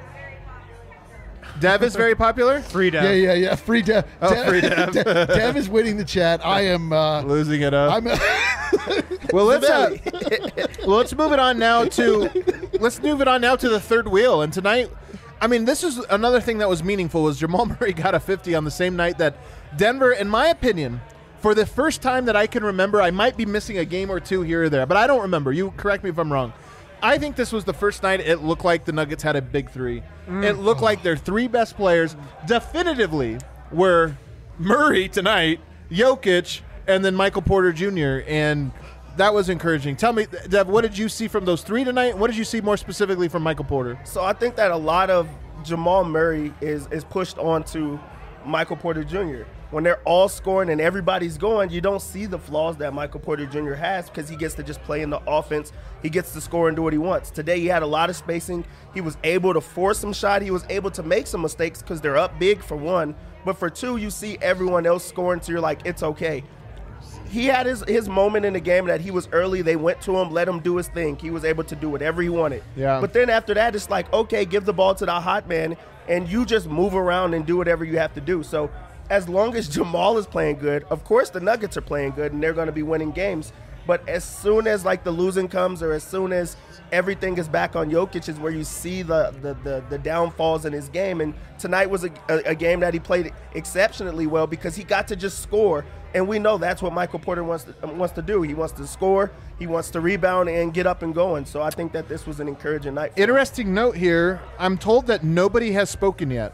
Dev is very popular. Free Dev. Yeah, yeah, yeah. Free Dev. Oh, Dev, free Dev. Dev, Dev is winning the chat. I am. Uh, Losing it up. I'm. Well, let's uh, well, let's move it on now to let's move it on now to the third wheel. And tonight, I mean, this is another thing that was meaningful was Jamal Murray got a fifty on the same night that Denver, in my opinion, for the first time that I can remember, I might be missing a game or two here or there, but I don't remember. You correct me if I'm wrong. I think this was the first night it looked like the Nuggets had a big three. It looked like their three best players definitively were Murray tonight, Jokic, and then Michael Porter Junior And that was encouraging. Tell me, Dev, what did you see from those three tonight? What did you see more specifically from Michael Porter? So I think that a lot of Jamal Murray is is pushed onto Michael Porter Junior When they're all scoring and everybody's going, you don't see the flaws that Michael Porter Junior has because he gets to just play in the offense. He gets to score and do what he wants. Today he had a lot of spacing. He was able to force some shot. He was able to make some mistakes because they're up big for one. But for two, you see everyone else scoring, so you're like, it's okay. He had his, his moment in the game that he was early. They went to him, let him do his thing. He was able to do whatever he wanted. Yeah. But then after that, it's like, okay, give the ball to the hot man, and you just move around and do whatever you have to do. So as long as Jamal is playing good, of course the Nuggets are playing good, and they're going to be winning games. But as soon as like the losing comes, or as soon as everything is back on Jokic, is where you see the the the, the downfalls in his game. And tonight was a, a, a game that he played exceptionally well because he got to just score. And we know that's what Michael Porter wants to, wants to do. He wants to score, he wants to rebound, and get up and going. So I think that this was an encouraging night for him. Interesting note here. I'm told that nobody has spoken yet.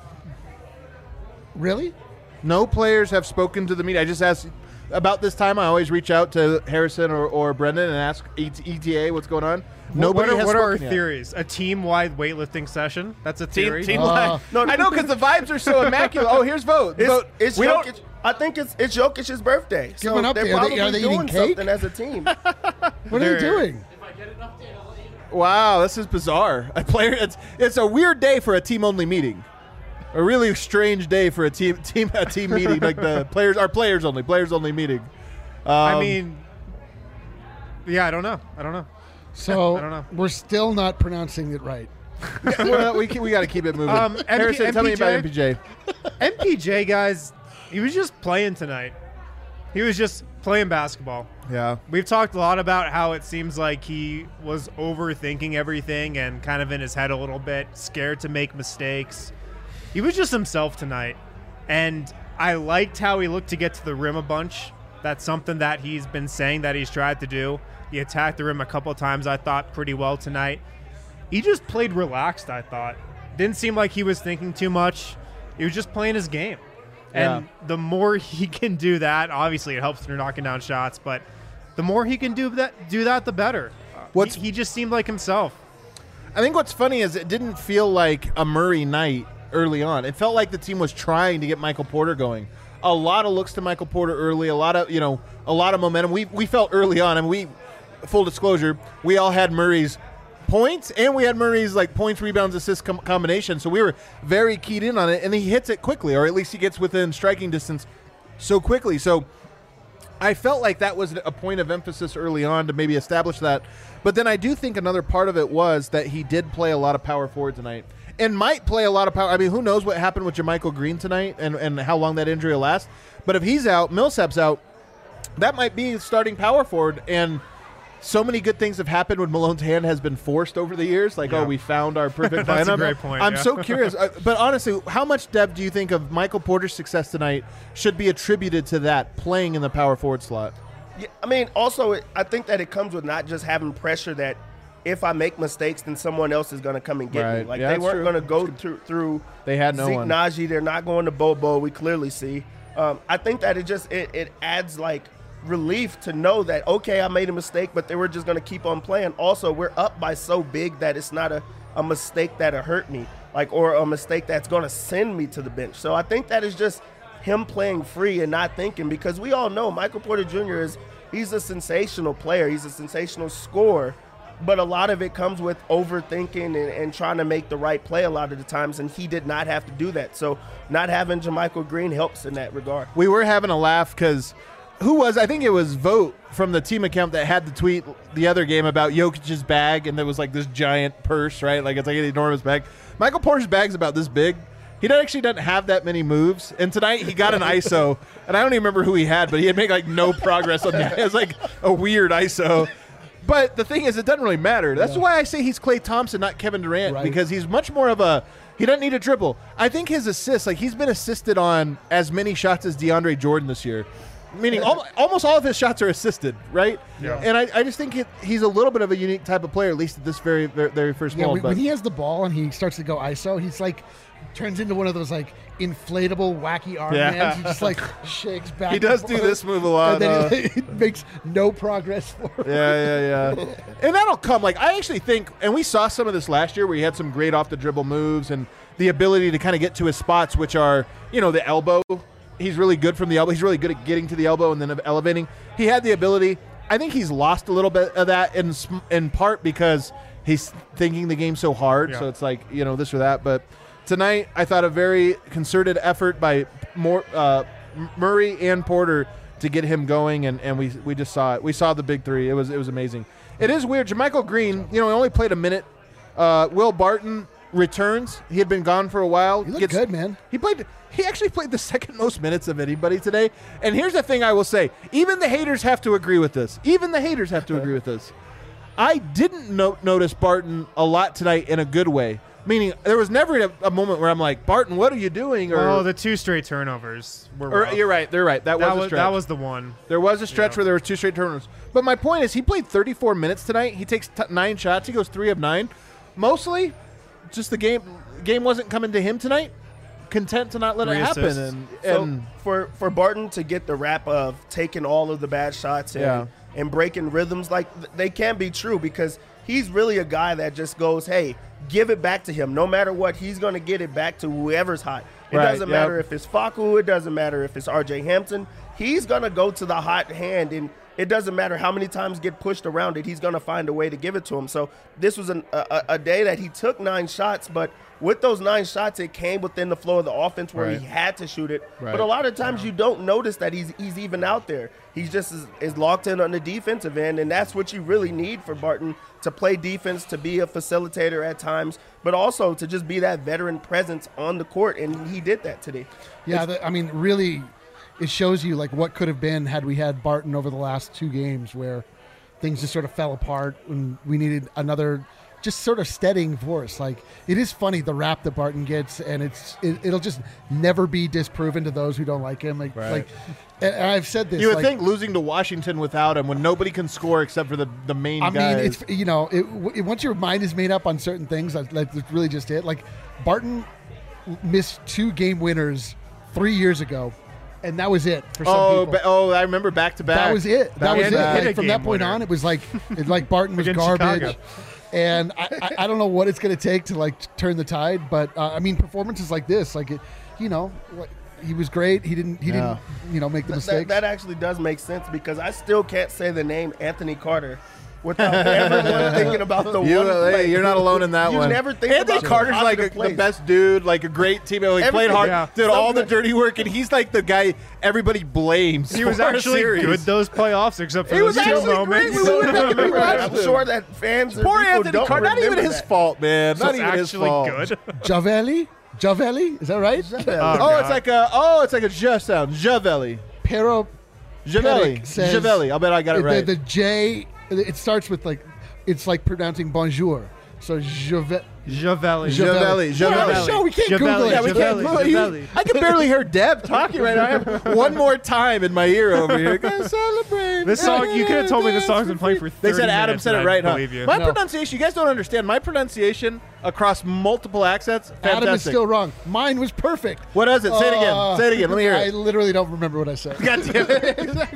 Really? No players have spoken to the media. I just asked about this time. I always reach out to Harrison or, or Brendan and ask E T A what's going on. Nobody what are, has what are our spoken yet. theories? A team-wide weightlifting session? That's a Team, theory. team Uh, line. no, I know because the vibes are so immaculate. Oh, here's vote. It's, vote. it's we Jokic. don't. I think it's it's Jokic's birthday. so an update. they're Are they- probably are they eating doing cake? something as a team. What are They're- they doing? Wow, this is bizarre. A player. It's it's a weird day for a team-only meeting. A really strange day for a team team a team meeting like the players are players only players only meeting. Um, I mean, yeah, I don't know. I don't know. So I don't know. we're still not pronouncing it right. well, we we got to keep it moving. Um, M P Harrison, tell me about M M P J? P J. M P J, guys, he was just playing tonight. He was just playing basketball. Yeah. We've talked a lot about how it seems like he was overthinking everything and kind of in his head a little bit, scared to make mistakes. He was just himself tonight, and I liked how he looked to get to the rim a bunch. That's something that he's been saying that he's tried to do. He attacked the rim a couple times, I thought, pretty well tonight. He just played relaxed, I thought. Didn't seem like he was thinking too much. He was just playing his game. And Yeah. the more he can do that, obviously it helps when you're knocking down shots, but the more he can do that, do that, the better. Uh, What's- he, he just seemed like himself. I think what's funny is it didn't feel like a Murray night early on. It felt like the team was trying to get Michael Porter going. A lot of looks to Michael Porter early, a lot of, you know, a lot of momentum. We we felt early on, and we, full disclosure, we all had Murray's points, and we had Murray's like points, rebounds, assists com- combination. So we were very keyed in on it, and he hits it quickly, or at least he gets within striking distance so quickly. So I felt like that was a point of emphasis early on to maybe establish that. But then I do think another part of it was that he did play a lot of power forward tonight and might play a lot of power. I mean, who knows what happened with Jermichael Green tonight and, and how long that injury will last. But if he's out, Millsap's out, that might be starting power forward. And so many good things have happened when Malone's hand has been forced over the years. Like, Yeah. oh, we found our perfect That's a lineup. great point, I'm yeah. so curious. Uh, but honestly, how much, Dev, do you think of Michael Porter's success tonight should be attributed to that, playing in the power forward slot? Yeah, I mean, also, it, I think that it comes with not just having pressure that if I make mistakes, then someone else is going to come and get me. Right. Like, Yeah, they that's weren't true. going to go through, through They had no Zeke one. Naji. They're not going to Bobo. We clearly see. Um, I think that it just it, it adds, like, relief to know that, okay, I made a mistake, but they were just going to keep on playing. Also, we're up by so big that it's not a, a mistake that'll hurt me, like, or a mistake that's going to send me to the bench. So I think that is just him playing free and not thinking, because we all know Michael Porter Junior is he's a sensational player. He's a sensational scorer. But a lot of it comes with overthinking and, and trying to make the right play a lot of the times, and he did not have to do that. So not having Jermichael Green helps in that regard. We were having a laugh because who was, I think it was Vote from the team account that had the tweet the other game about Jokic's bag, and there was like this giant purse, right? Like it's like an enormous bag. Michael Porter's bag's about this big. He don't- actually doesn't have that many moves. And tonight he got an I S O, and I don't even remember who he had, but he had made like no progress on that. It was like a weird I S O. But the thing is, it doesn't really matter. That's why I say he's Klay Thompson, not Kevin Durant, Right. because he's much more of a – he doesn't need a dribble. I think his assists, like he's been assisted on as many shots as DeAndre Jordan this year, meaning al- almost all of his shots are assisted, right? Yeah. And I, I just think it, he's a little bit of a unique type of player, at least at this very, very, very first Yeah, mold. when, But when he has the ball and he starts to go I S O, he's like turns into one of those like inflatable wacky arm Yeah. hands. He just like shakes back. he and does do forth, this move a lot. and uh, then he makes no progress forward. Yeah, yeah, yeah. And that'll come. Like, I actually think, and we saw some of this last year where he had some great off the dribble moves and the ability to kind of get to his spots, which are, you know, the elbow. He's really good from the elbow. He's really good at getting to the elbow and then elevating. He had the ability. I think he's lost a little bit of that in sm- in part because he's thinking the game so hard. Yeah. So it's like, you know, this or that. But tonight, I thought a very concerted effort by more uh, M- Murray and Porter to get him going, and, and we we just saw it. We saw the big three. It was it was amazing. It is weird. Jermichael Green, you know, he only played a minute. Uh, Will Barton, returns. He had been gone for a while. You look good, man. He played. He actually played the second most minutes of anybody today. And here's the thing I will say. Even the haters have to agree with this. Even the haters have to agree with this. I didn't no- notice Barton a lot tonight in a good way. Meaning, there was never a, a moment where I'm like, Barton, what are you doing? Or, Oh, the two straight turnovers were or rough. you're right. They're right. That, That was a was stretch. that was the one. There was a stretch Yeah. where there were two straight turnovers. But my point is, he played thirty-four minutes tonight. He takes t- nine shots. He goes three of nine. Mostly, just the game game wasn't coming to him tonight. Content to not let Three it happen. assists. And, So and for for Barton to get the rap of taking all of the bad shots and, Yeah. and breaking rhythms, like th- they can be true because he's really a guy that just goes, hey, give it back to him. No matter what, he's going to get it back to whoever's hot. It Right, doesn't yep. matter if it's Facu. It doesn't matter if it's R J Hampton. He's going to go to the hot hand, and it doesn't matter how many times get pushed around it. He's going to find a way to give it to him. So this was an, a, a day that he took nine shots, but with those nine shots, it came within the flow of the offense where Right. he had to shoot it. Right. But a lot of times you don't notice that he's he's even out there. He's just is, is locked in on the defensive end, and that's what you really need for Barton to play defense, to be a facilitator at times, but also to just be that veteran presence on the court, and he did that today. Yeah, the, I mean, really, it shows you like what could have been had we had Barton over the last two games, where things just sort of fell apart, and we needed another, just sort of steadying force. Like, it is funny the rap that Barton gets, and it's it, it'll just never be disproven to those who don't like him. Like, Right. like, and and I've said this. you would like, think losing to Washington without him, when nobody can score except for the, the main I guys. mean, it's you know, it, it, once your mind is made up on certain things, like, like that's really just it. Like Barton missed two game winners three years ago, and that was it for some oh, people. ba- oh, I remember back to back. That was it. That Back was to it. back. Hit a Like, from that game point winner. on, it was like it, like Barton was Against garbage. Chicago. And I, I, I don't know what it's going to take to like turn the tide, but uh, I mean performances like this, like it, you know, like, he was great. He didn't he Yeah. didn't you know make the That, mistakes. that actually does make sense because I still can't say the name Anthony Carter without everyone thinking about the You, one hey, play. you're not alone in that you one. never think Anthony about the Carter's like a, positive the plays. best dude, like a great teammate. He played Everything. hard, Yeah. did all the Something- dirty work, and he's like the guy everybody blames. He was for a actually series. good those playoffs, except for He was those two actually moments. great. We went back and I'm rewatched him. sure that fans or Poor people Anthony don't Carter. Not even remember his that. fault, man. So Not it's even his actually fault. good. Javelli, Javelli, is that right? Oh, God. it's like a oh, it's like a J sound. Javelli. Pero Javelli. Pedic says- Javelli. I'll bet I got it the, right. the J, it starts with like, it's like pronouncing bonjour. So Javelli. Javelli. Javelli. We're on the Javelli. show. We can't Javelli. Google it. Yeah, we can't. Javelli, well, you- Javelli. I can barely hear Deb talking right now. I have one more time in my ear over here. Gonna celebrate. This song, you could have told me this song's been playing for thirty They said Adam minutes said it and right, I'd huh? believe you. My No. pronunciation, you guys don't understand. My pronunciation across multiple accents, fantastic. Adam is still wrong. Mine was perfect. What is it? Say it again. Uh, Say it again. Let me hear I it. literally don't remember what I said. God damn it.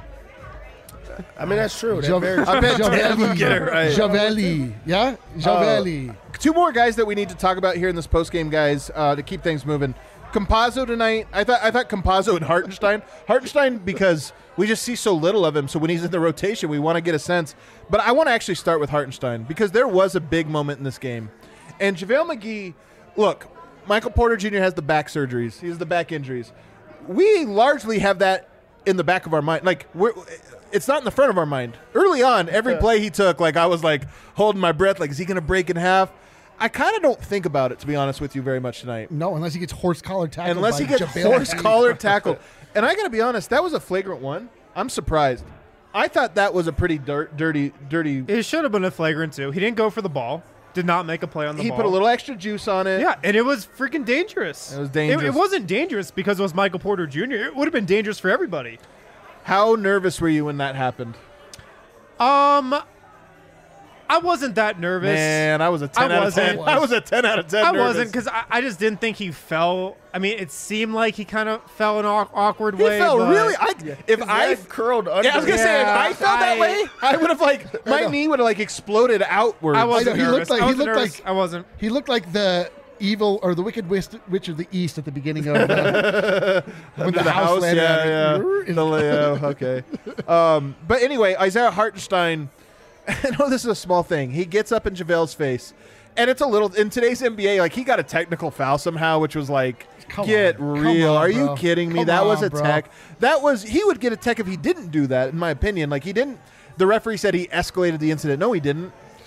I mean, that's true. That's Jav- very true. I bet Javelli. Deb would get it right. Javelli. Yeah? Javelli. Two more guys that we need to talk about here in this postgame, guys, uh, to keep things moving. Compazzo tonight. I thought I thought Compazzo and Hartenstein. Hartenstein because we just see so little of him. So when he's in the rotation, we want to get a sense. But I want to actually start with Hartenstein because there was a big moment in this game. And JaVale McGee, look, Michael Porter Junior has the back surgeries. He has the back injuries. We largely have that in the back of our mind. Like we're it's not in the front of our mind. Early on, every play he took, like I was like holding my breath, like is he going to break in half? I kind of don't think about it, to be honest with you, very much tonight. No, unless he gets horse collar tackled. Unless by he gets JaVale horse McGee. collar tackled. And I got to be honest, that was a flagrant one. I'm surprised. I thought that was a pretty dirt, dirty, dirty. It should have been a flagrant two. He didn't go for the ball. Did not make a play on the He ball. put a little extra juice on it. Yeah, and it was freaking dangerous. It was dangerous. It, it wasn't dangerous because it was Michael Porter Junior It would have been dangerous for everybody. How nervous were you when that happened? Um, I wasn't that nervous. Man, I was a ten I out of ten. wasn't. I was a ten out of ten. I nervous. wasn't because I, I just didn't think he fell. I mean, it seemed like he kind of fell in an au- awkward He way. felt but really. I, if His I leg curled under. Yeah, I was gonna say if Yeah, I felt that I- way, I would have like my know. knee would have like exploded outward. I wasn't I know, he nervous. looked like- I he wasn't looked nervous. like- I wasn't. He looked like the evil or the wicked witch, witch of the east at the beginning of the, when Under the, house, landed yeah, on yeah. it. The layout, okay. Um, but anyway, Isaiah Hartenstein. I know this is a small thing. He gets up in JaVale's face, and it's a little in today's N B A. Like he got a technical foul somehow, which was like, Come get on. Come real. on, Are you bro. kidding me? Come that was on, a bro. tech. That was he would get a tech if he didn't do that. In my opinion, like he didn't. The referee said he escalated the incident. No, he didn't.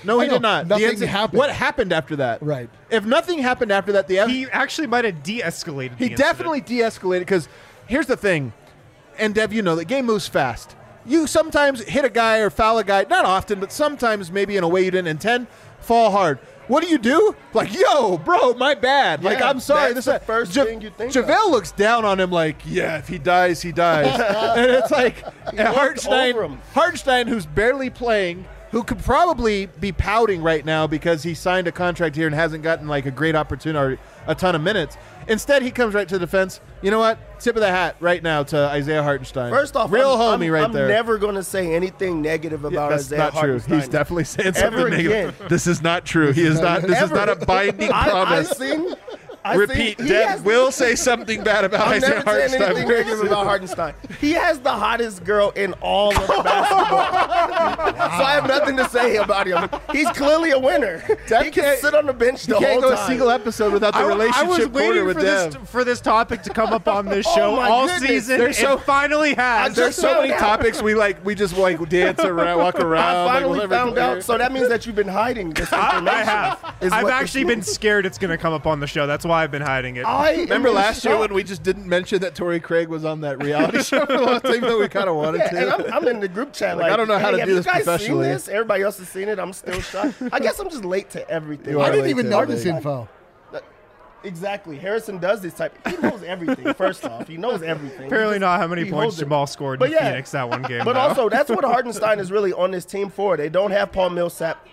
No, he I know. did not. The Nothing incident- happened. What happened after that? Right. If nothing happened after that, the He actually might have de-escalated. He the definitely de-escalated because here's the thing, and Dev, you know the game moves fast. You sometimes hit a guy or foul a guy, not often, but sometimes maybe in a way you didn't intend, fall hard. What do you do? Like, yo, bro, my bad. like, Yeah, I'm sorry. that's This the that. first Ja- thing you think of. JaVale looks down on him like, yeah, if he dies, he dies. And it's like, and over Hartenstein, him. Hartenstein, who's barely playing, who could probably be pouting right now because he signed a contract here and hasn't gotten like a great opportunity or a ton of minutes. Instead, he comes right to the defense. You know what? Tip of the hat right now to Isaiah Hartenstein. First off, real I'm, homie I'm, right I'm there. never going to say anything negative Yeah, about that's Isaiah not true. Hartenstein. He's definitely saying Ever something negative. again. This is not true. He is not. This is Ever. not a binding I, promise. I've seen. I've Repeat. Seen, he Dev has- will say something bad about I'm Isaiah never saying Hartenstein. anything negative about Hartenstein. He has the hottest girl in all of basketball. So I have nothing to say about him. He's clearly a winner. Dev he can can't- sit on the bench the You can't whole go time. a single episode without the I, I relationship was corner waiting with for Dev. this for this topic to come up on this Oh show my all goodness. season. There's It so- finally has. I There's just so found many out. topics we like. We just like dance around, walk around. I like, finally whatever. found out. So that means that you've been hiding this information. I have. is I've what actually this been scared it's going to come up on the show. That's why I've been hiding it. I Remember am last year shocked. when we just didn't mention that Torrey Craig was on that reality show for the last time that we kind of wanted Yeah, to? and I'm, I'm in the group chat. Like, Like, I don't know how hey, to have do you this guys professionally. Seen this? Everybody else has seen it. I'm still shocked. I guess I'm just late to everything. You I are didn't late even to know everything. this info. Exactly. Harrison does this type. He knows everything. First off, he knows everything. Apparently He just- not how many he points holds it. Jamal scored But in yeah. Phoenix that one game. But though. also, that's what Hartenstein is really on this team for. They don't have Paul Millsap.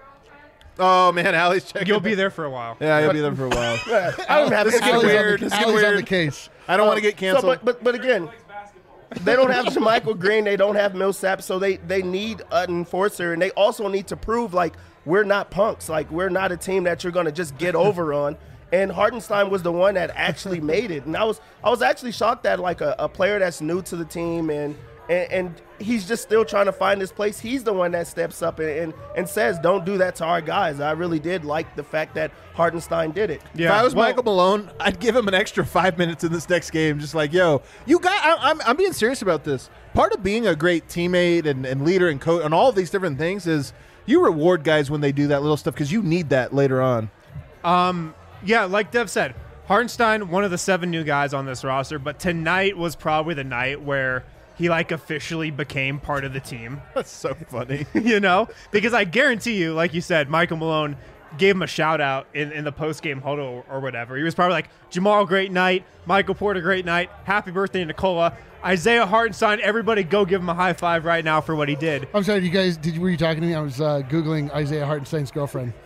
Oh man, Allie's checking. You'll be there for a while. Yeah, he'll be there for a while. I don't have This is any- getting Allie's weird. On the, This is getting Allie's on weird. the case. I don't want to get So, canceled. but, but but again, they don't have JaMychal Green. They don't have Millsap. So they they need an enforcer, and they also need to prove like we're not punks. Like we're not a team that you're gonna just get over on. And Hartenstein was the one that actually made it. And I was I was actually shocked that like a, a player that's new to the team and, and and he's just still trying to find his place. He's the one that steps up and, and, and says, don't do that to our guys. I really did like the fact that Hartenstein did it. Yeah. If I was well, Michael Malone, I'd give him an extra five minutes in this next game. Just like, yo, you got. I, I'm I'm being serious about this. Part of being a great teammate and, and leader and coach and all of these different things is you reward guys when they do that little stuff because you need that later on. Um, yeah, like Dev said, Hartenstein, one of the seven new guys on this roster, but tonight was probably the night where he like officially became part of the team. That's so funny. You know, because I guarantee you, like you said, Michael Malone gave him a shout out in, in the post game huddle or, or whatever. He was probably like, Jamal, great night. Michael Porter, great night. Happy birthday, Nicola. Isaiah Hartenstein, everybody go give him a high five right now for what he did. I'm sorry, you guys. Did were you talking to me? I was uh, googling Isaiah Hartenstein's girlfriend.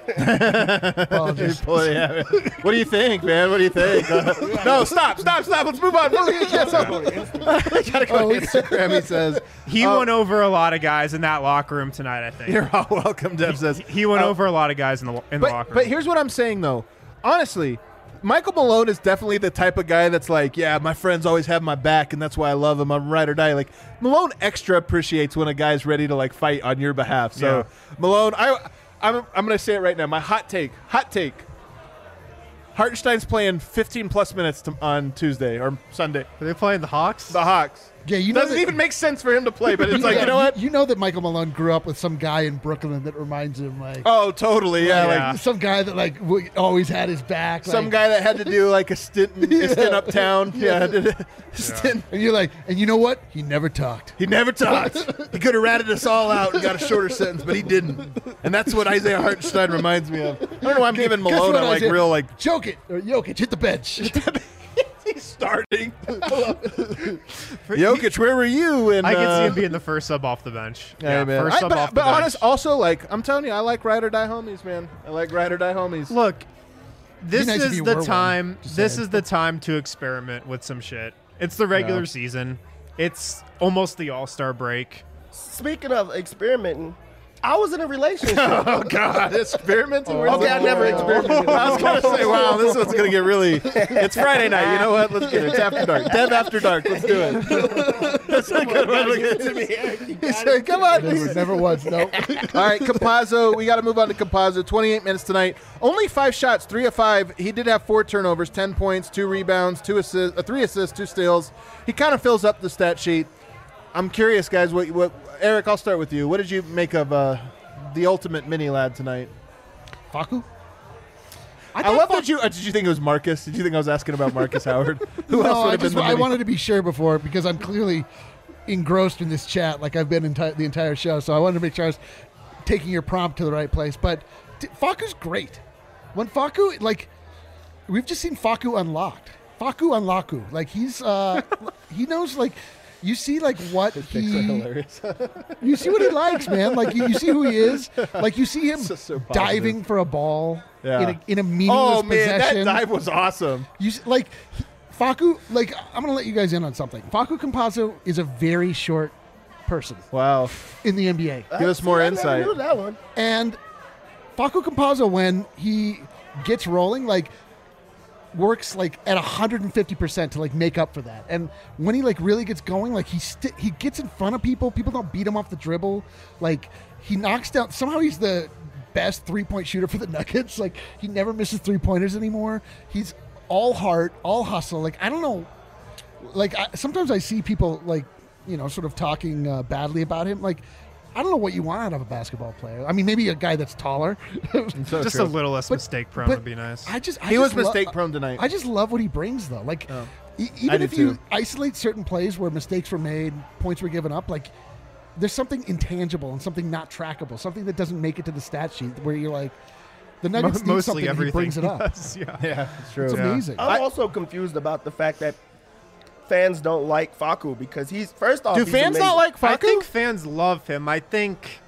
Apologies. Boy, yeah. What do you think, man? What do you think? Uh, no, stop, stop, stop. Let's move on. Move on. Gotta go Oh, to Instagram. He says He Oh. won over a lot of guys in that locker room tonight, I think. You're all welcome. Dev says He won Uh, over a lot of guys in the in the But, locker room. but here's what I'm saying, though. Honestly, Michael Malone is definitely the type of guy that's like, yeah, my friends always have my back, and that's why I love him. I'm ride or die. Like Malone extra appreciates when a guy's ready to like fight on your behalf. So Yeah. Malone, I, I'm, I'm gonna say it right now. My hot take, hot take. Hartenstein's playing fifteen plus minutes to, on Tuesday or Sunday. Are they playing the Hawks? The Hawks. Yeah, you know Doesn't that- even make sense for him to play, but it's like, Yeah, you know what? You know that Michael Malone grew up with some guy in Brooklyn that reminds him like Oh, totally. Yeah, Yeah. like some guy that like w- always had his back. some like- guy that had to do like a stint, in, a stint uptown. Yeah, did a stint. and you're like, and you know what? He never talked. He never talked. He could have ratted us all out and got a shorter sentence, but he didn't. And that's what Isaiah Hartenstein reminds me of. I don't know why I'm giving Guess Malone what, a like Isaiah? real like Joke it or Jokic hit the bench. he's starting. Jokic, where were you? And I can uh, see him being the first sub off the bench. Hey, man. first I- sub but off the but bench. honest, also like I'm telling you, I like ride or die homies, man. I like ride or die homies. Look, this nice if is you the were one, time. just This saying. is the time to experiment with some shit. It's the regular Yeah. season. It's almost the All Star break. Speaking of experimenting, I was in a relationship. Oh God, experimenting. Where's Okay, the- I never experimented. I was gonna say, wow, this one's gonna get really. It's Friday night. You know what? Let's get it. It's after dark. Dev after dark. Let's do it. That's a good one. He said, "Come on." never, never was. No. All right, Campazzo. We got to move on to Campazzo. twenty-eight minutes tonight. Only five shots, three of five. He did have four turnovers, ten points, two rebounds, two assists, uh, three assists, two steals. He kind of fills up the stat sheet. I'm curious, guys. What? What? Eric, I'll start with you. What did you make of uh, the ultimate mini lad tonight? Facu? I, thought love Fa- that you. Uh, did you think it was Marcus? Did you think I was asking about Marcus Howard? Who no, else would I have just been the I mini? wanted to be sure before because I'm clearly engrossed in this chat like I've been enti- the entire show. So I wanted to make sure I was taking your prompt to the right place. But t- Facu's great. When Facu, like, we've just seen Facu unlocked. Facu unlocku. Like, he's, uh, he knows, like, you see, like, what he, hilarious. you see what he likes, man. Like, you, you see who he is. Like, you see him So- so positive. diving for a ball Yeah. in, a, in a meaningless Oh man, possession. that dive was awesome. You s- like he- Facu. Like I'm gonna let you guys in on something. Facu Campazzo is a very short person Wow. in the N B A, Give us more I never insight. knew that one. and Facu Campazzo, when he gets rolling, like works like at one hundred fifty percent to like make up for that. And when he like really gets going, like he sti he gets in front of people. People don't beat him off the dribble. Like he knocks down. Somehow he's the best three point shooter for the Nuggets. Like he never misses three pointers anymore. He's all heart, all hustle. Like I don't know. Like I, sometimes I see people like you know sort of talking uh, badly about him. Like I don't know what you want out of a basketball player. I mean, maybe a guy that's taller. So Just true. a little less But- mistake prone but would be nice. I just I He was just lo- mistake prone tonight. I just love what he brings though. Like Oh. e- I even do if you too. isolate certain plays where mistakes were made, points were given up, like there's something intangible and something not trackable, something that doesn't make it to the stat sheet where you're like the Mo- Nuggets need Mostly something and he everything brings it up. does, yeah. yeah, it's true. It's Yeah. amazing. I'm I- also confused about the fact that fans don't like Facu because he's first off. Do he's fans not amazing. like Facu? I think fans love him. I think.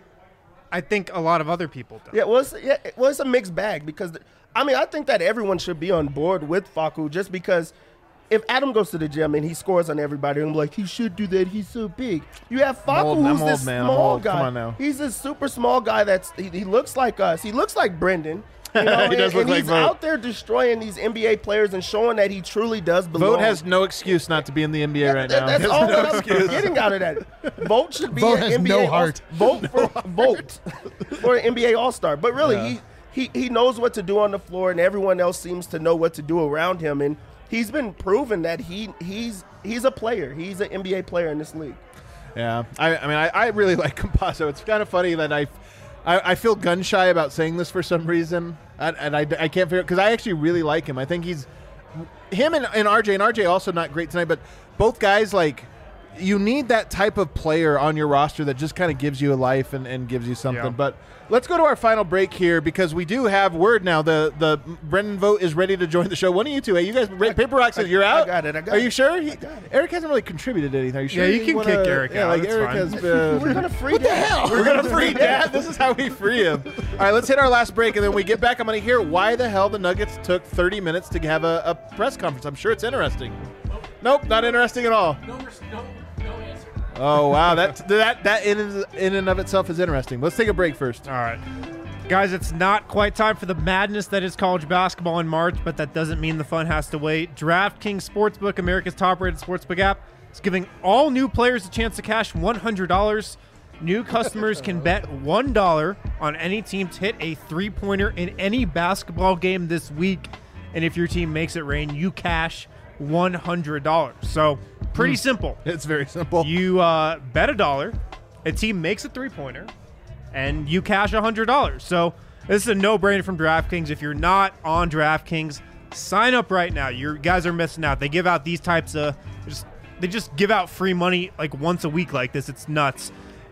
I think a lot of other people do. Yeah, well, it's, yeah, well, it's a mixed bag because th- I mean I think that everyone should be on board with Facu just because if Adam goes to the gym and he scores on everybody, I'm like he should do that. He's so big. You have Facu, old, I'm who's old, this man. I'm small old. guy. Come on now. He's this super small guy that's he, he looks like us. He looks like Brendan. You know, He does and, look and like he's Vogt. out there destroying these N B A players and showing that he truly does belong. Vogt has no excuse not to be in the N B A right That- now. That's He has all no that I'm excuse. getting out of that. Vogt should be Vogt an has N B A no All- heart. Vogt for Vogt for an N B A All Star. But really, he, he he knows what to do on the floor, and everyone else seems to know what to do around him. And he's been proven that he he's he's a player. He's an N B A player in this league. Yeah, I, I mean, I, I really like Campazzo. It's kind of funny that I, I, I feel gun shy about saying this for some reason, and, and I, I can't figure because I actually really like him. I think he's him and, and R J, and R J also not great tonight, but both guys like you need that type of player on your roster that just kind of gives you a life and, and gives you something. Yeah. But let's go to our final break here because we do have word now. The the Brendan Vogt is ready to join the show. One of you two, hey, you guys, Paper Rock said I- you're I out. got it, I got Are it. you sure? He, I got it. Eric hasn't really contributed anything. Are you sure? Yeah, you can wanna- kick Eric yeah, out. Like That's Eric fine. has been. We're gonna free what the hell? We're gonna free Dad. This is how we free him. All right, let's hit our last break, and then when we get back, I'm gonna hear why the hell the Nuggets took thirty minutes to have a, a press conference. I'm sure it's interesting. Nope, not interesting at all. No, res- no, no answer. Oh wow, that that that in in and of itself is interesting. Let's take a break first. All right. Guys, it's not quite time for the madness that is college basketball in March, but that doesn't mean the fun has to wait. DraftKings Sportsbook, America's top-rated sportsbook app, is giving all new players a chance to cash one hundred dollars. New customers can bet one dollar on any team to hit a three-pointer in any basketball game this week. And if your team makes it rain, you cash one hundred dollars. So, pretty simple. It's very simple. You uh, bet a dollar, a team makes a three-pointer, and you cash one hundred dollars. So this is a no-brainer from DraftKings. If you're not on DraftKings, sign up right now. You guys are missing out. They give out these types of just they just give out free money like once a week like this. It's nuts.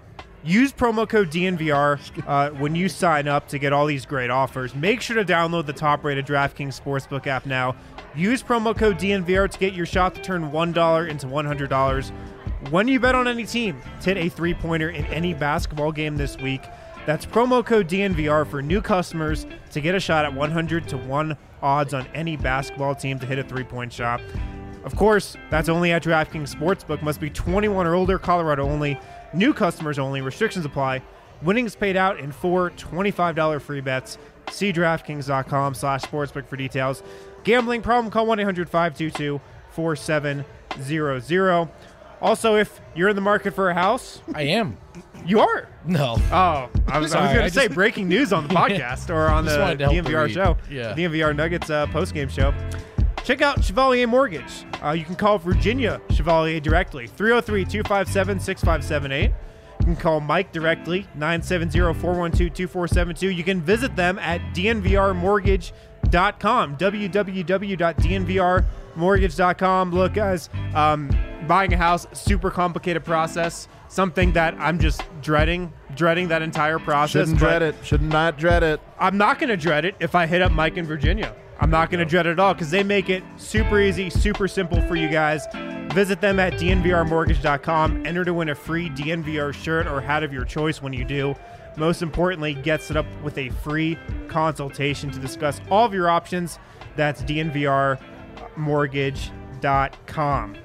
Use promo code D N V R uh, when you sign up to get all these great offers. Make sure to download the top-rated DraftKings Sportsbook app now. Use promo code D N V R to get your shot to turn one dollar into one hundred dollars. When you bet on any team, to hit a three-pointer in any basketball game this week. That's promo code D N V R for new customers to get a shot at one hundred to one odds on any basketball team to hit a three-point shot. Of course, that's only at DraftKings Sportsbook. Must be twenty-one or older, Colorado only. New customers only. Restrictions apply. Winnings paid out in four twenty-five dollars free bets. See DraftKings.com slash sportsbook for details. Gambling problem? Call one eight hundred five two two four seven zero zero. Also, if you're in the market for a house, I am. you are. No. Oh, I was, I was Sorry, going I to say just- breaking news on the podcast or on Just the wanted to help D N V R the show. read. Yeah. D N V R Nuggets uh, postgame show. Check out Chevalier Mortgage. Uh, you can call Virginia Chevalier directly, three oh three, two five seven, six five seven eight. You can call Mike directly, nine seven zero, four one two, two four seven two. You can visit them at d n v r mortgage dot com, w w w dot d n v r mortgage dot com. Look, guys, um, buying a house, super complicated process, something that I'm just dreading, dreading that entire process. Shouldn't dread it. Should not dread it. I'm not going to dread it if I hit up Mike in Virginia. I'm not going to dread it at all because they make it super easy, super simple for you guys. Visit them at d n v r mortgage dot com. Enter to win a free D N V R shirt or hat of your choice when you do. Most importantly, get set up with a free consultation to discuss all of your options. That's d n v r mortgage dot com.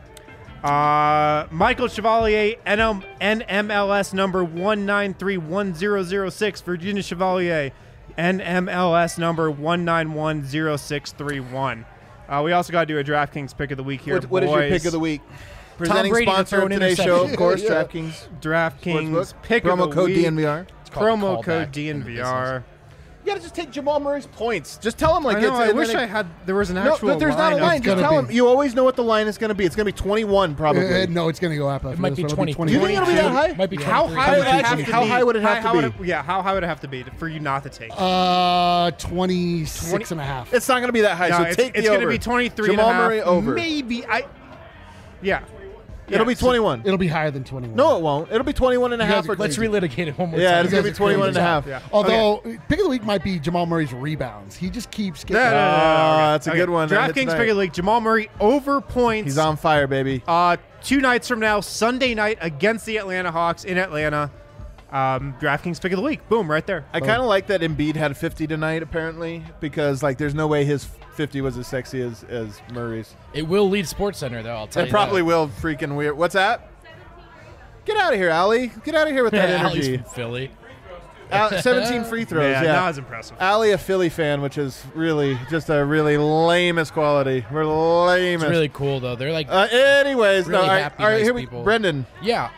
Uh, Michael Chevalier, N M L S number one nine three one zero zero six. Virginia Chevalier, N M L S number one nine one zero six three one. Uh, we also got to do a DraftKings pick of the week here. What, what is your pick of the week? Presenting Brady to sponsor throw of an today's show, of interception. course, Yeah. DraftKings. DraftKings Sportsbook. pick Promo of the code week. D N V R. It's called a Promo code callback D N V in R. You gotta just take Jamal Murray's points. Just tell him like I know, it's. I and wish then it- I had. There was an No, actual. but there's not a line. line. It's Just gonna tell be- him. You always know what the line is going to be. It's going to be twenty-one, probably. Uh, no, it's going to go up. After It might this be one. twenty. It'll Do you think it'll be that high? Might be How twenty-three. high would it have actually, to how be? high would it have How- to how be? would it- yeah, how high would it have to be to- for you not to take? Uh, twenty-six and a half. It's not going to be that high. no, so it's, take it's the going to over. be twenty-three Jamal and a half, Murray over. Maybe I. Yeah. It'll Yeah, be so- twenty-one. It'll be higher than twenty-one. No, it won't. It'll be twenty-one and a You half. guys are or crazy. Let's relitigate it one more Yeah, time. it's going to be twenty-one and a half. Yeah. Although, pick of the week might be Jamal Murray's rebounds. He just keeps getting. No, no, no, no, no, Ah, okay. that's a Okay. good one. That hit DraftKings tonight. pick of the league. Jamal Murray over points. He's on fire, baby. Uh, two nights from now, Sunday night against the Atlanta Hawks in Atlanta. Um, DraftKings pick of the week. Boom, right there. I kind of like that Embiid had fifty tonight, apparently, because like there's no way his fifty was as sexy as, as Murray's. It will lead Sports Center, though. I'll tell It you. probably that. will. Freaking weird. What's that? Get out of here, Allie. Get out of here with that Yeah, Allie's energy. from Philly. Al- seventeen free throws. Yeah, Yeah, not as impressive. Allie, a Philly fan, which is really just a really lamest quality. We're lamest. It's really cool, though. They're like, Uh, anyways, Really no. All right, happy, all right nice here we. people. Brendan. yeah.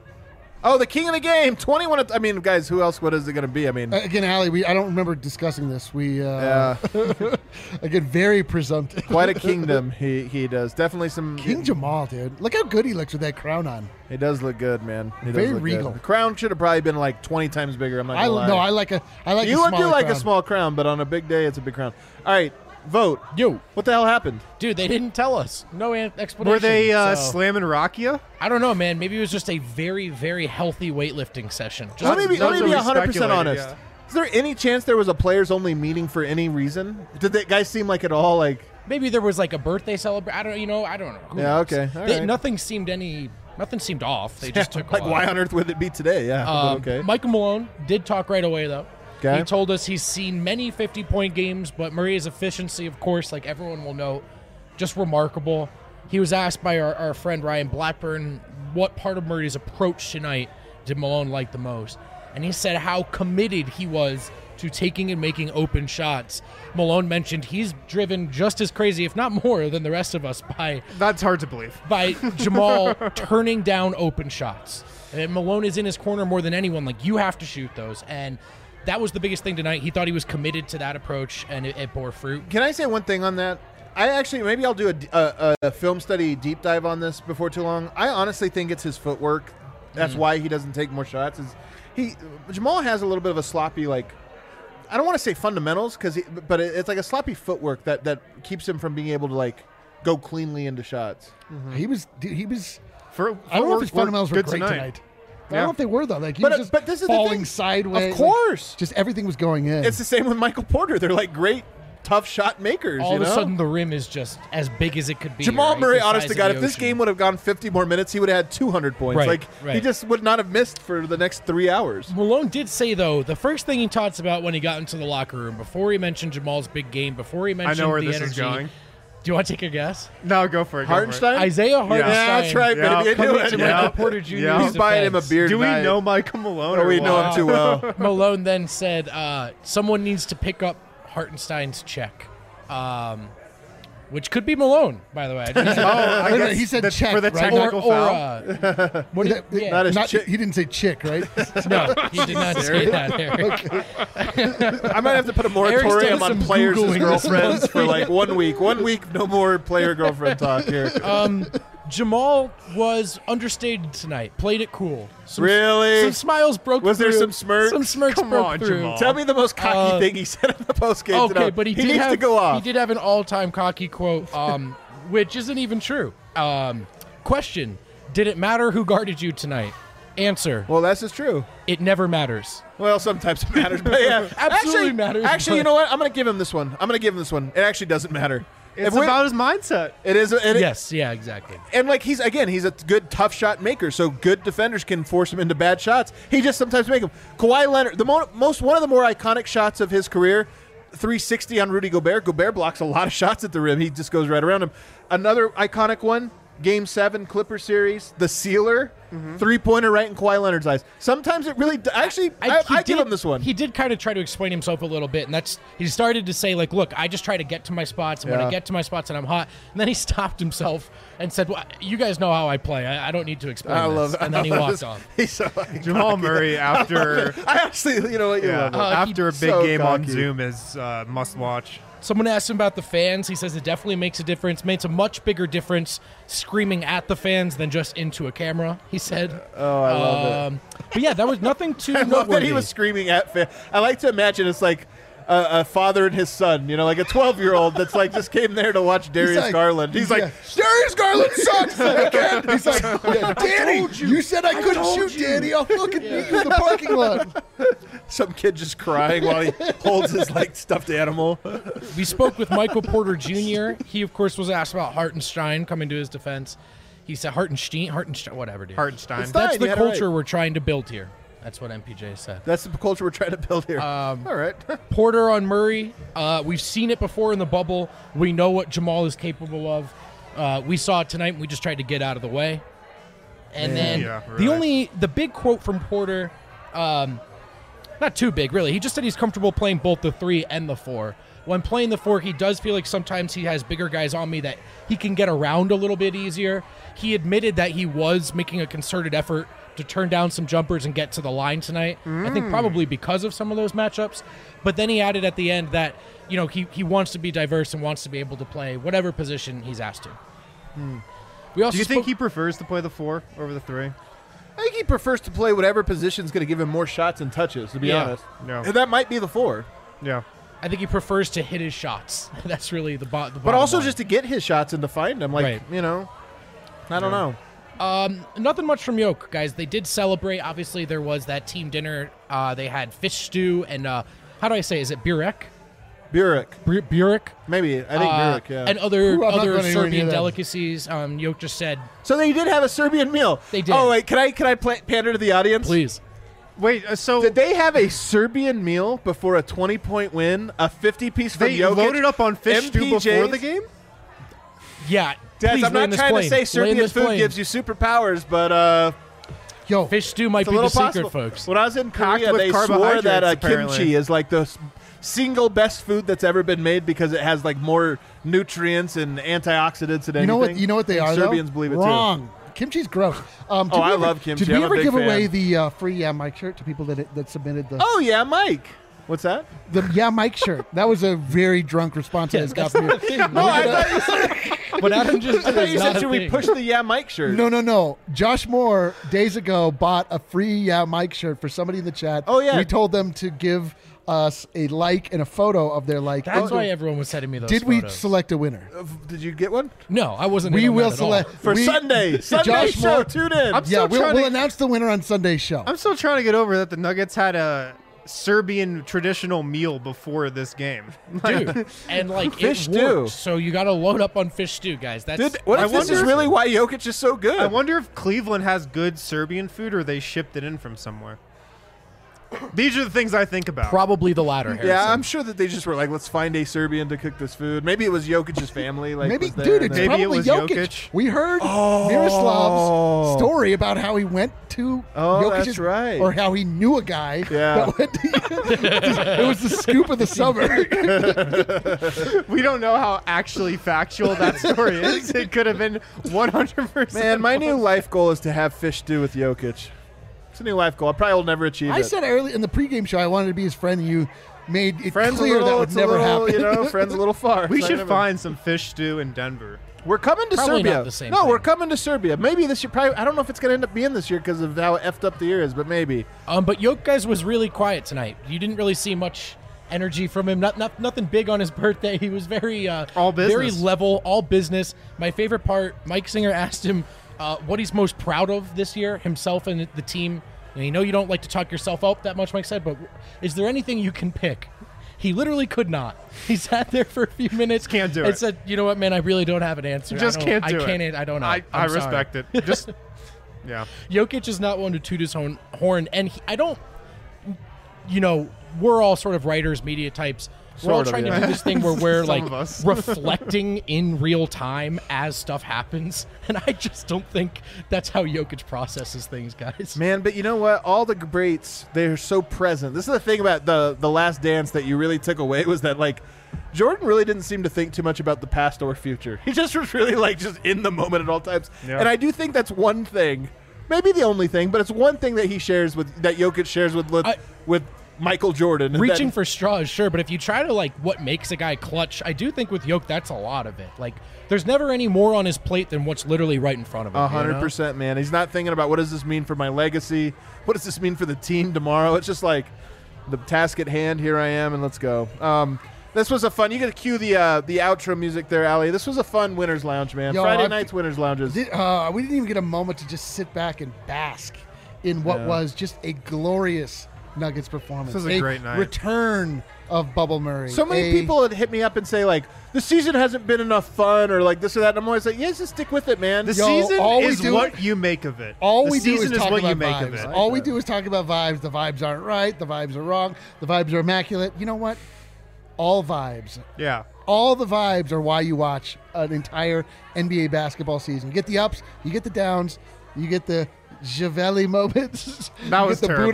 Oh, the king of the game. twenty-one. At, I mean, guys, who else? What is it going to be? I mean, Uh, again, Allie, we I don't remember discussing this. We uh, yeah, again very presumptive. quite a kingdom. He he does definitely some. King Jamal, dude. Look how good he looks with that crown on. He does look good, man. He does Very look regal. Good. The crown should have probably been like twenty times bigger. I'm not I gonna lie. no, I like a I like you a would do smaller like crown. a small crown, but on a big day, it's a big crown. All right, vote. Yo, What the hell happened? dude, they didn't tell us. No an- explanation. Were they uh, so- slamming Rakia? I don't know, man. Maybe it was just a very, very healthy weightlifting session. Just Let me be, let that's me be what we one hundred percent speculated, honest. yeah. Is there any chance there was a players only meeting for any reason? Did that guy seem like at all like? maybe there was like a birthday celebration. I don't, you know, I don't know. Who Yeah, knows? okay, all They- right. Nothing seemed any. Nothing seemed off. They just took a like lot. why on earth would it be today? Yeah, but Um, okay. Michael Malone did talk right away, though. Okay. He told us he's seen many fifty-point games, but Murray's efficiency, of course, like everyone will know, just remarkable. He was asked by our, our friend Ryan Blackburn what part of Murray's approach tonight did Malone like the most. And he said how committed he was to taking and making open shots. Malone mentioned he's driven just as crazy, if not more, than the rest of us by That's hard to believe. by Jamal turning down open shots. And Malone is in his corner more than anyone. Like, you have to shoot those. And that was the biggest thing tonight. He thought he was committed to that approach, and it, it bore fruit. Can I say one thing on that? I actually maybe I'll do a, a, a film study deep dive on this before too long. I honestly think it's his footwork. That's why he doesn't take more shots. Is he Jamal has a little bit of a sloppy like. I don't want to say fundamentals because, but it, it's like a sloppy footwork that that keeps him from being able to like go cleanly into shots. He was dude, he was. For, I don't know if his footwork fundamentals were good great tonight. tonight. I don't know if they were though. Like he But, was uh, just but this is the falling thing. sideways. Of like, course, just everything was going in. it's the same with Michael Porter. They're like great, tough shot makers. All you of know? a sudden, the rim is just as big as it could be. Jamal right? Murray, The honest size to of God, the if this ocean. game would have gone fifty more minutes, he would have had two hundred points. Right, like he right. just would not have missed for the next three hours. Malone did say, though, the first thing he talks about when he got into the locker room, before he mentioned Jamal's big game, before he I mentioned know where the this energy. is going. Do you want to take a guess? No, go for it. go for it. Hartenstein? Isaiah Hartenstein. Yeah, that's right, Yeah. baby. I knew Coming it. to Yeah. Michael Porter Junior's Yeah. He's buying him a defense. beer Do we tonight. know Michael Malone? Oh, or we know what? him too well. Malone then said, uh, someone needs to pick up Hartenstein's check. Um, which could be Malone, by the way. I didn't say- Oh, I Wait a minute, guess he said the- check, for the right? technical or, or, foul. uh, what did, yeah. Not as Not- chick. he didn't say chick, right? No, he did not say that, Eric. I might have to put a Eric's moratorium done on some players' Googling this girlfriends for like one week. One week, no more player girlfriend talk here. Um, Jamal was understated tonight. Played it cool. Some, Really? Some smiles broke Was through. there some smirks? Some smirks Come broke on, through. Jamal. Tell me the most cocky Uh, thing he said in the postgame Okay, tonight. but he, he did needs have to go off. he did have an all-time cocky quote, um, which isn't even true. Um, question: Did it matter who guarded you tonight? Answer: Well, that's just true. It never matters. Well, sometimes it matters, but yeah, Absolutely actually, matters, Actually, you but- know what? I'm going to give him this one. I'm going to give him this one. It actually doesn't matter. It's If we- about his mindset. It is. It, Yes, yeah, exactly. And like he's again, he's a good tough shot maker, so good defenders can force him into bad shots. He just sometimes make them. Kawhi Leonard, the mo- most one of the more iconic shots of his career, three sixty on Rudy Gobert. Gobert blocks a lot of shots at the rim. He just goes right around him. Another iconic one, Game Seven Clipper series, the sealer, Mm-hmm. three pointer right in Kawhi Leonard's eyes. Sometimes it really d- actually. I, he I give did- him this one. He did kind of try to explain himself a little bit, and that's he started to say like, "Look, I just try to get to my spots, and when Yeah. I get to my spots, and I'm hot." And then he stopped himself and said, well, "You guys know how I play. I, I don't need to explain I this." love. And I then he love walked this. off. He's so iconic. Jamal Murray after I actually, you know what? You yeah, love it. Uh, he- after a big so game on cocky. Zoom is uh, must watch. Someone asked him about the fans. He says it definitely makes a difference. Makes a much bigger difference screaming at the fans than just into a camera. He said. Oh, I love it. Um, but yeah, that was nothing too I love that noteworthy. he was screaming at fan. I like to imagine it's like a, a father and his son, you know, like a twelve-year-old that's like just came there to watch Darius like- Garland. He's yeah. like, Darius Garland sucks. I can't. He's like, yeah, Danny, you. said I, couldn't shoot, Danny. I'll fucking meet you in the parking lot. Some kid just crying while he holds his like stuffed animal. We spoke with Michael Porter Junior He, of course, was asked about Hartenstein coming to his defense. He said Hartenstein, Hartenstein, whatever, dude. Hartenstein. It's That's fine, the you had it culture right. we're trying to build here. That's what M P J said. That's the culture we're trying to build here. Um, All right. Porter on Murray. Uh, we've seen it before in the bubble. We know what Jamal is capable of. Uh, we saw it tonight, and we just tried to get out of the way. And then Yeah, the right. only the big quote from Porter, um, not too big really. He just said he's comfortable playing both the three and the four. When playing the four, he does feel like sometimes he has bigger guys on me that he can get around a little bit easier. He admitted that he was making a concerted effort to turn down some jumpers and get to the line tonight. I think probably because of some of those matchups. But then he added at the end that, you know, he, he wants to be diverse and wants to be able to play whatever position he's asked to. We also Do you think spoke- he prefers to play the four over the three? I think he prefers to play whatever position's going to give him more shots and touches, to be Yeah. honest. No. And that might be the four. Yeah. I think he prefers to hit his shots. That's really the, bo- the bottom But also line. just to get his shots and to find them. Like, Right. you know, I don't know. Um, nothing much from Yoke, guys. They did celebrate. Obviously, there was that team dinner. Uh, they had fish stew and uh, how do I say? Is it burek? Burek. Bur- burek. Maybe. I think Uh, Burek, yeah. And other Ooh, I'm not other gonna hear any Serbian of that. delicacies. Um, Yoke just said, so they did have a Serbian meal. They did. Oh, wait. Can I, can I pla- pander to the audience? "Please." Wait, uh, so Did they have a Serbian meal before a twenty-point win? A fifty-piece from they Jokic? loaded up on fish stew M P Js? before the game? Yeah, Dads, please I'm land not this trying plane. to say Land Serbian this food plane. gives you superpowers, but uh, Yo, Fish stew might it's a be the little secret, possible. folks. When I was in Packed Korea, with they swore carbohydrates, that uh, apparently. kimchi is like the s- single best food that's ever been made because it has like more nutrients and antioxidants and anything. you know what? You know what they And are. Serbians though? believe it Wrong. Kimchi's gross. Um, did Oh, we I ever- love kimchi. Did we I'm a ever big give away fan. the uh, free Yeah Mike shirt to people that that submitted the too. Oh yeah, Mike. What's that? the Yeah Mike shirt? That was a very drunk response. I just got from you. No, I thought you said, What Adam just I did thought is you not said a should we thing. push the yeah Mike shirt? No, no, no. Josh Moore days ago bought a free Yeah Mike shirt for somebody in the chat. Oh, yeah. We told them to give us a like and a photo of their like. That's Oh, why everyone was sending me those. Did we photos. select a winner? Uh, Did you get one No, I wasn't. We in on will that at all. select for we- Sunday? Sunday Josh show. Moore- Tune in. I'm Yeah, still we'll, trying we'll to, announce the winner on Sunday's show. I'm still trying to get over that the Nuggets had a Serbian traditional meal before this game. dude. And like Fish it stew. worked, so you got to load up on fish stew, guys. That's Dude, what I if this wonder is if- really why Jokic is so good? I wonder if Cleveland has good Serbian food or they shipped it in from somewhere. These are the things I think about. probably the latter. Harrison. Yeah, I'm sure that they just were like, let's find a Serbian to cook this food. Maybe it was Jokic's family. Like, Maybe, was there dude, and it's then- Maybe it probably was Jokic. Jokic. We heard Oh. Miroslav's story about how he went to Oh, Jokic's, that's right. or how he knew a guy. Yeah. that went to, it was the scoop of the summer. We don't know how actually factual that story is. It could have been one hundred percent. Man, my new life goal is to have fish stew with Jokic. It's a new life goal. I probably will never achieve I it. said early in the pregame show I wanted to be his friend, and you made it friends a clear little, that would it's never a little, happen. you know, friends a little far. We It's not should gonna- find some fish stew in Denver. We're coming to Probably Serbia. not the same no, thing. we're coming to Serbia. Maybe this year. Probably. I don't know if it's going to end up being this year because of how effed up the year is, but maybe. Um, but Jokic was really quiet tonight. You didn't really see much energy from him. Not, not nothing big on his birthday. He was very uh, All business. very level, all business. My favorite part, Mike Singer asked him uh, what he's most proud of this year, himself and the team. And you know you don't like to talk yourself up that much, Mike said, but is there anything you can pick? He literally could not. He sat there for a few minutes. Can't do and it. said, "You know what, man? I really don't have an answer. Just I can't don't, do I can't. it. I don't know. I, I'm I sorry." respect it. Just yeah. Jokic is not one to toot his own horn, and he, I don't. You know, we're all sort of writers, media types. We're all Sort of, trying yeah. to do this thing where we're Some like of us. reflecting in real time as stuff happens, and I just don't think that's how Jokic processes things, guys. Man, but you know what? All the greats, they're so present. This is the thing about the the Last Dance that you really took away was that, like, Jordan really didn't seem to think too much about the past or future. He just was really, like, just in the moment at all times. Yeah. And I do think that's one thing, maybe the only thing, but it's one thing that he shares with, that Jokic shares with, with, I- with Michael Jordan. and Reaching that- for straws, sure, but if you try to like what makes a guy clutch, I do think with Jokic that's a lot of it. Like, there's never any more on his plate than what's literally right in front of him. A you hundred know? percent, man. He's not thinking about what does this mean for my legacy? What does this mean for the team tomorrow? It's just like the task at hand. Here I am, and let's go. Um, this was a fun. You got to cue the uh, the outro music there, Ali. This was a fun Winners Lounge, man. Yo, Friday I- nights Winners Lounges. Did, uh, we didn't even get a moment to just sit back and bask in what Yeah. was just a glorious Nuggets performance. This was a great night. Return of Bubble Murray. So many A- people had hit me up and say like the season hasn't been enough fun or like this or that. And I'm always like, yes, just stick with it, man. The Yo, season all we is do- what you make of it. All the we do season is talk what about you make vibes. of it. All we do is talk about vibes. The vibes aren't right. The vibes are wrong. The vibes are immaculate. You know what? All vibes. Yeah. All the vibes are why you watch an entire N B A basketball season. You get the ups, you get the downs, you get the Javelli moments. That you was get the terrible.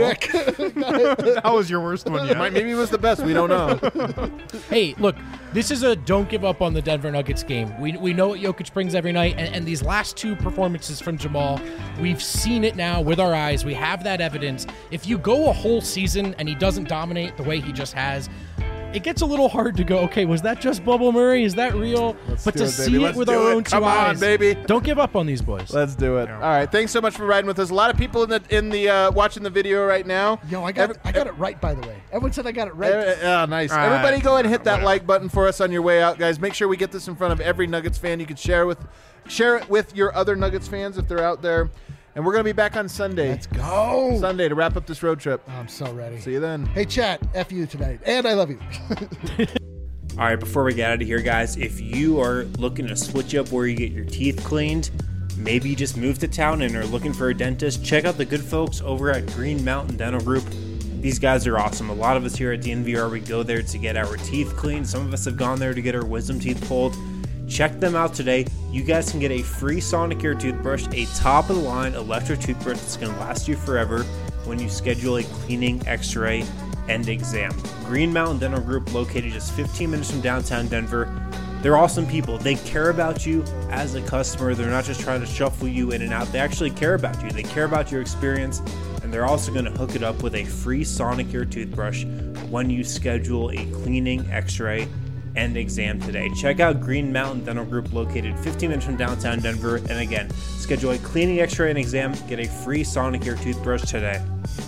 Budek. That was your worst one yet. Might- Maybe it was the best. We don't know. Hey, look, this is a don't give up on the Denver Nuggets game. We, we know what Jokic brings every night, and, and these last two performances from Jamal, we've seen it now with our eyes. We have that evidence. If you go a whole season and he doesn't dominate the way he just has, it gets a little hard to go, okay, was that just Bubble Murray? Is that real? Let's but do to it, baby. see Let's it with do our it. own two Come on, eyes, baby. don't give up on these boys. Let's do it. Yeah. All right. Thanks so much for riding with us. A lot of people in the in the uh, watching the video right now. Yo, I got Every- I got it right, by the way. Everyone said I got it right. Eh, eh, oh, nice. All right. Everybody go ahead and hit that Whatever. like button for us on your way out, guys. Make sure we get this in front of every Nuggets fan. You can share with share it with your other Nuggets fans if they're out there. And we're going to be back on Sunday. Let's go. Sunday to wrap up this road trip. I'm so ready. See you then. Hey, chat. F you tonight. And I love you. All right, before we get out of here, guys, if you are looking to switch up where you get your teeth cleaned, maybe you just moved to town and are looking for a dentist, check out the good folks over at Green Mountain Dental Group. These guys are awesome. A lot of us here at D N V R, we go there to get our teeth cleaned. Some of us have gone there to get our wisdom teeth pulled. Check them out today. You guys can get a free Sonicare toothbrush, a top-of-the-line electric toothbrush that's going to last you forever when you schedule a cleaning, x-ray, and exam. Green Mountain Dental Group, located just fifteen minutes from downtown Denver. They're awesome people. They care about you as a customer. They're not just trying to shuffle you in and out. They actually care about you. They care about your experience, and they're also going to hook it up with a free Sonicare toothbrush when you schedule a cleaning, x-ray, and exam today. Check out Green Mountain Dental Group, located fifteen minutes from downtown Denver. And again, schedule a cleaning, x-ray, and exam. Get a free Sonicare toothbrush today.